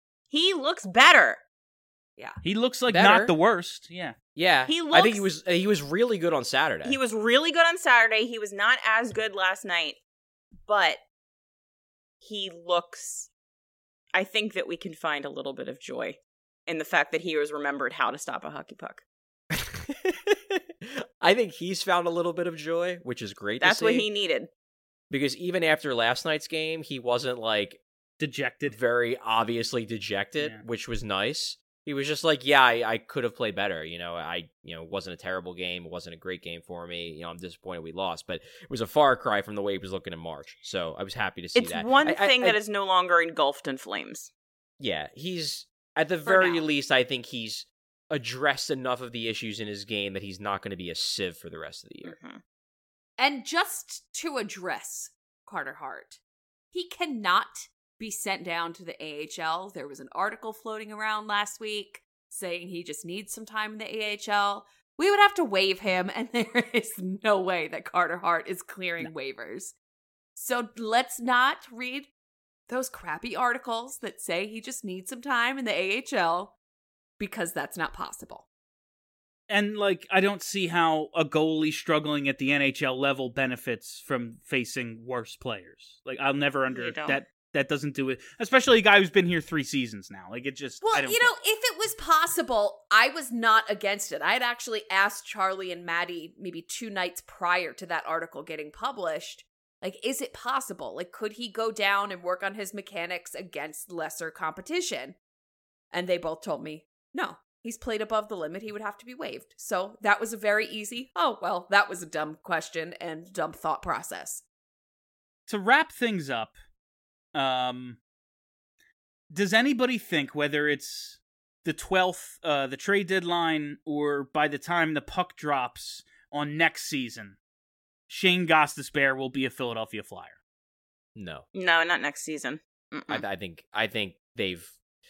Speaker 6: He looks better.
Speaker 3: He looks like
Speaker 5: Better.
Speaker 3: not the worst. Yeah,
Speaker 5: Yeah,
Speaker 6: He
Speaker 5: I think he
Speaker 6: looks-
Speaker 5: was he was really good on Saturday.
Speaker 6: He was really good on Saturday. He was not as good last night, but he looks. I think that we can find a little bit of joy in the fact that he has remembered how to stop a hockey puck.
Speaker 5: I think he's found a little bit of joy, which is great.
Speaker 6: That's
Speaker 5: to
Speaker 6: what
Speaker 5: see,
Speaker 6: he needed.
Speaker 5: because even after last night's game, he wasn't like
Speaker 3: Dejected.
Speaker 5: very obviously dejected,
Speaker 3: Yeah.
Speaker 5: which was nice. He was just like, yeah, I, I could have played better. You know, I, you know, it wasn't a terrible game. It wasn't a great game for me. You know, I'm disappointed we lost, but it was a far cry from the way he was looking in March. So I was happy to see
Speaker 6: It's
Speaker 5: that.
Speaker 6: one
Speaker 5: I- I-
Speaker 6: thing
Speaker 5: I-
Speaker 6: that is no longer engulfed in flames.
Speaker 5: Yeah, he's, at the
Speaker 4: For
Speaker 5: very
Speaker 4: now.
Speaker 5: least, I think he's addressed enough of the issues in his game that he's not going to be a sieve for the rest of the year.
Speaker 6: Mhm.
Speaker 4: And just to address Carter Hart, he cannot be sent down to the A H L. There was an article floating around last week saying he just needs some time in the A H L. We would have to waive him, and there is no way that Carter Hart is clearing waivers. So let's not read those crappy articles that say he just needs some time in the A H L, because that's not possible.
Speaker 3: And, like, I don't see how a goalie struggling at the N H L level benefits from facing worse players. Like, I'll never under
Speaker 6: You don't.
Speaker 3: that. That doesn't do it. Especially a guy who's been here three seasons now. Like, it just. I
Speaker 4: Well,
Speaker 3: don't
Speaker 4: you
Speaker 3: get
Speaker 4: know,
Speaker 3: it.
Speaker 4: if it was possible, I was not against it. I had actually asked Charlie and Maddie maybe two nights prior to that article getting published, like, is it possible? Like, could he go down and work on his mechanics against lesser competition? And they both told me, no, he's played above the limit. He would have to be waived. So that was a very easy, oh, well, that was a dumb question and dumb thought process.
Speaker 3: To wrap things up, um, does anybody think, whether it's the twelfth, uh, the trade deadline, or by the time the puck drops on next season, Shane Gostisbehere will be a Philadelphia Flyer?
Speaker 5: No.
Speaker 6: No, not next season. Mm-mm.
Speaker 5: I, I think, I think they've,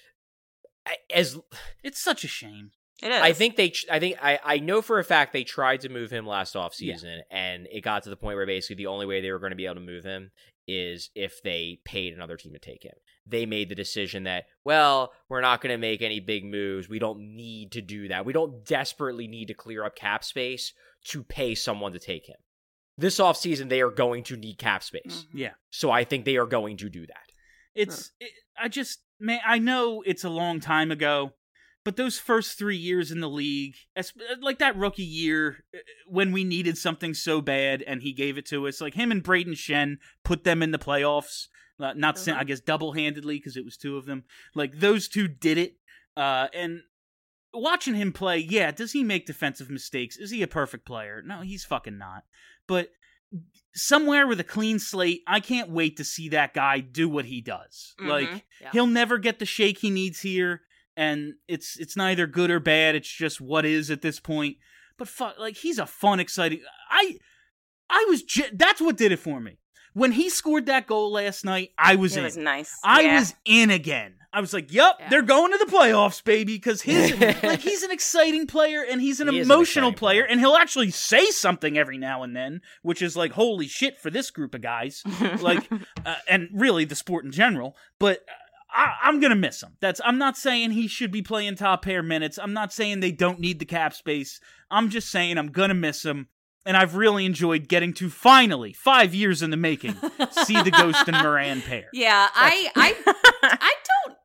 Speaker 5: I- as,
Speaker 3: It's such a shame.
Speaker 6: It is.
Speaker 5: I think they. I think I. I know for a fact they tried to move him last offseason, and it got to the point where basically the only way they were going to be able to move him is if they paid another team to take him. They made the decision that, well, we're not going to make any big moves. We don't need to do that. We don't desperately need to clear up cap space to pay someone to take him. This offseason, they are going to need cap space.
Speaker 6: Mhm.
Speaker 3: Yeah.
Speaker 5: So I think they are going to do that.
Speaker 3: It's, it, I just, man, I know it's a long time ago, but those first three years in the league, as- like that rookie year uh, when we needed something so bad and he gave it to us, like him and Braden Shen put them in the playoffs, uh, not, sin-
Speaker 4: Mhm.
Speaker 3: I guess, double-handedly because it was two of them. Like, those two did it. Uh, and watching him play, yeah, does he make defensive mistakes? Is he a perfect player? No, he's fucking not. But somewhere with a clean slate, I can't wait to see that guy do what he does.
Speaker 6: Mhm.
Speaker 3: Like,
Speaker 4: Yeah.
Speaker 3: he'll never get the shake he needs here, and it's it's neither good or bad. It's just what is at this point. But fuck, like, he's a fun, exciting. I I was j- that's what did it for me. When he scored that goal last night, I was
Speaker 6: It
Speaker 3: in.
Speaker 6: was nice.
Speaker 3: I
Speaker 6: Yeah.
Speaker 3: was in again. I was like, "Yep,
Speaker 4: Yeah.
Speaker 3: they're going to the playoffs, baby." Because his like he's an exciting player and he's an
Speaker 5: He is an
Speaker 3: emotional
Speaker 5: exciting
Speaker 3: player,
Speaker 5: player.
Speaker 3: and he'll actually say something every now and then, which is like, "Holy shit!" for this group of guys, like, uh, and really the sport in general. But uh, I, I'm gonna miss him. That's. I'm not saying he should be playing top pair minutes. I'm not saying they don't need the cap space. I'm just saying I'm gonna miss him. And I've really enjoyed getting to finally, five years in the making, see the Ghost and Moran pair.
Speaker 4: Yeah, I, I, I don't.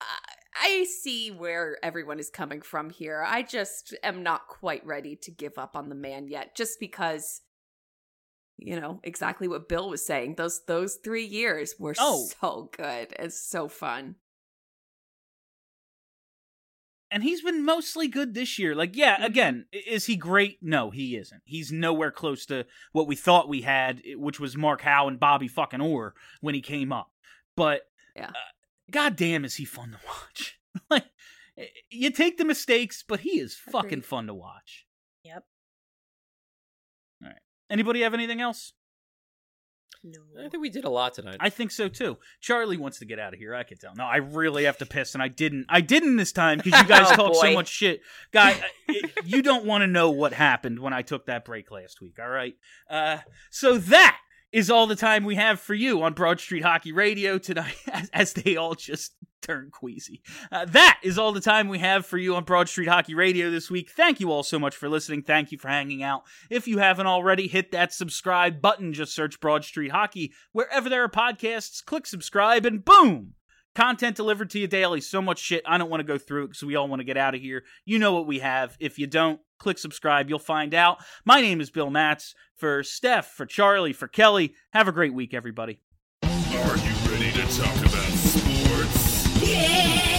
Speaker 4: I see where everyone is coming from here. I just am not quite ready to give up on the man yet, just because, you know, exactly what Bill was saying. Those those three years were
Speaker 3: Oh.
Speaker 4: so good and so fun.
Speaker 3: And he's been mostly good this year. Like, yeah, again, i- is he great? No, he isn't. He's nowhere close to what we thought we had, which was Mark Howe and Bobby fucking Orr when he came up. But,
Speaker 4: Yeah.
Speaker 3: uh, goddamn, is he fun to watch. Like, you take the mistakes, but he is fucking
Speaker 4: Agreed.
Speaker 3: fun to watch.
Speaker 6: Yep.
Speaker 3: All right. Anybody have anything else?
Speaker 6: No.
Speaker 5: I think we did a lot tonight.
Speaker 3: I think so too. Charlie wants to get out of here. I can tell. No, I really have to piss, and I didn't. I didn't this time because you guys
Speaker 6: Oh,
Speaker 3: talk so
Speaker 6: boy.
Speaker 3: much shit, guy. I- you don't want to know what happened when I took that break last week. All right. Uh, so that is all the time we have for you on Broad Street Hockey Radio tonight, as, as they all just turn queasy. Uh, that is all the time we have for you on Broad Street Hockey Radio this week. Thank you all so much for listening. Thank you for hanging out. If you haven't already, hit that subscribe button. Just search Broad Street Hockey wherever there are podcasts. Click subscribe, and boom! Content delivered to you daily. So much shit. I don't want to go through it because we all want to get out of here. You know what we have. If you don't, click subscribe. You'll find out. My name is Bill Matz. For Steph, for Charlie, for Kelly, have a great week, everybody.
Speaker 8: Are you ready to talk about sports?
Speaker 9: Yeah!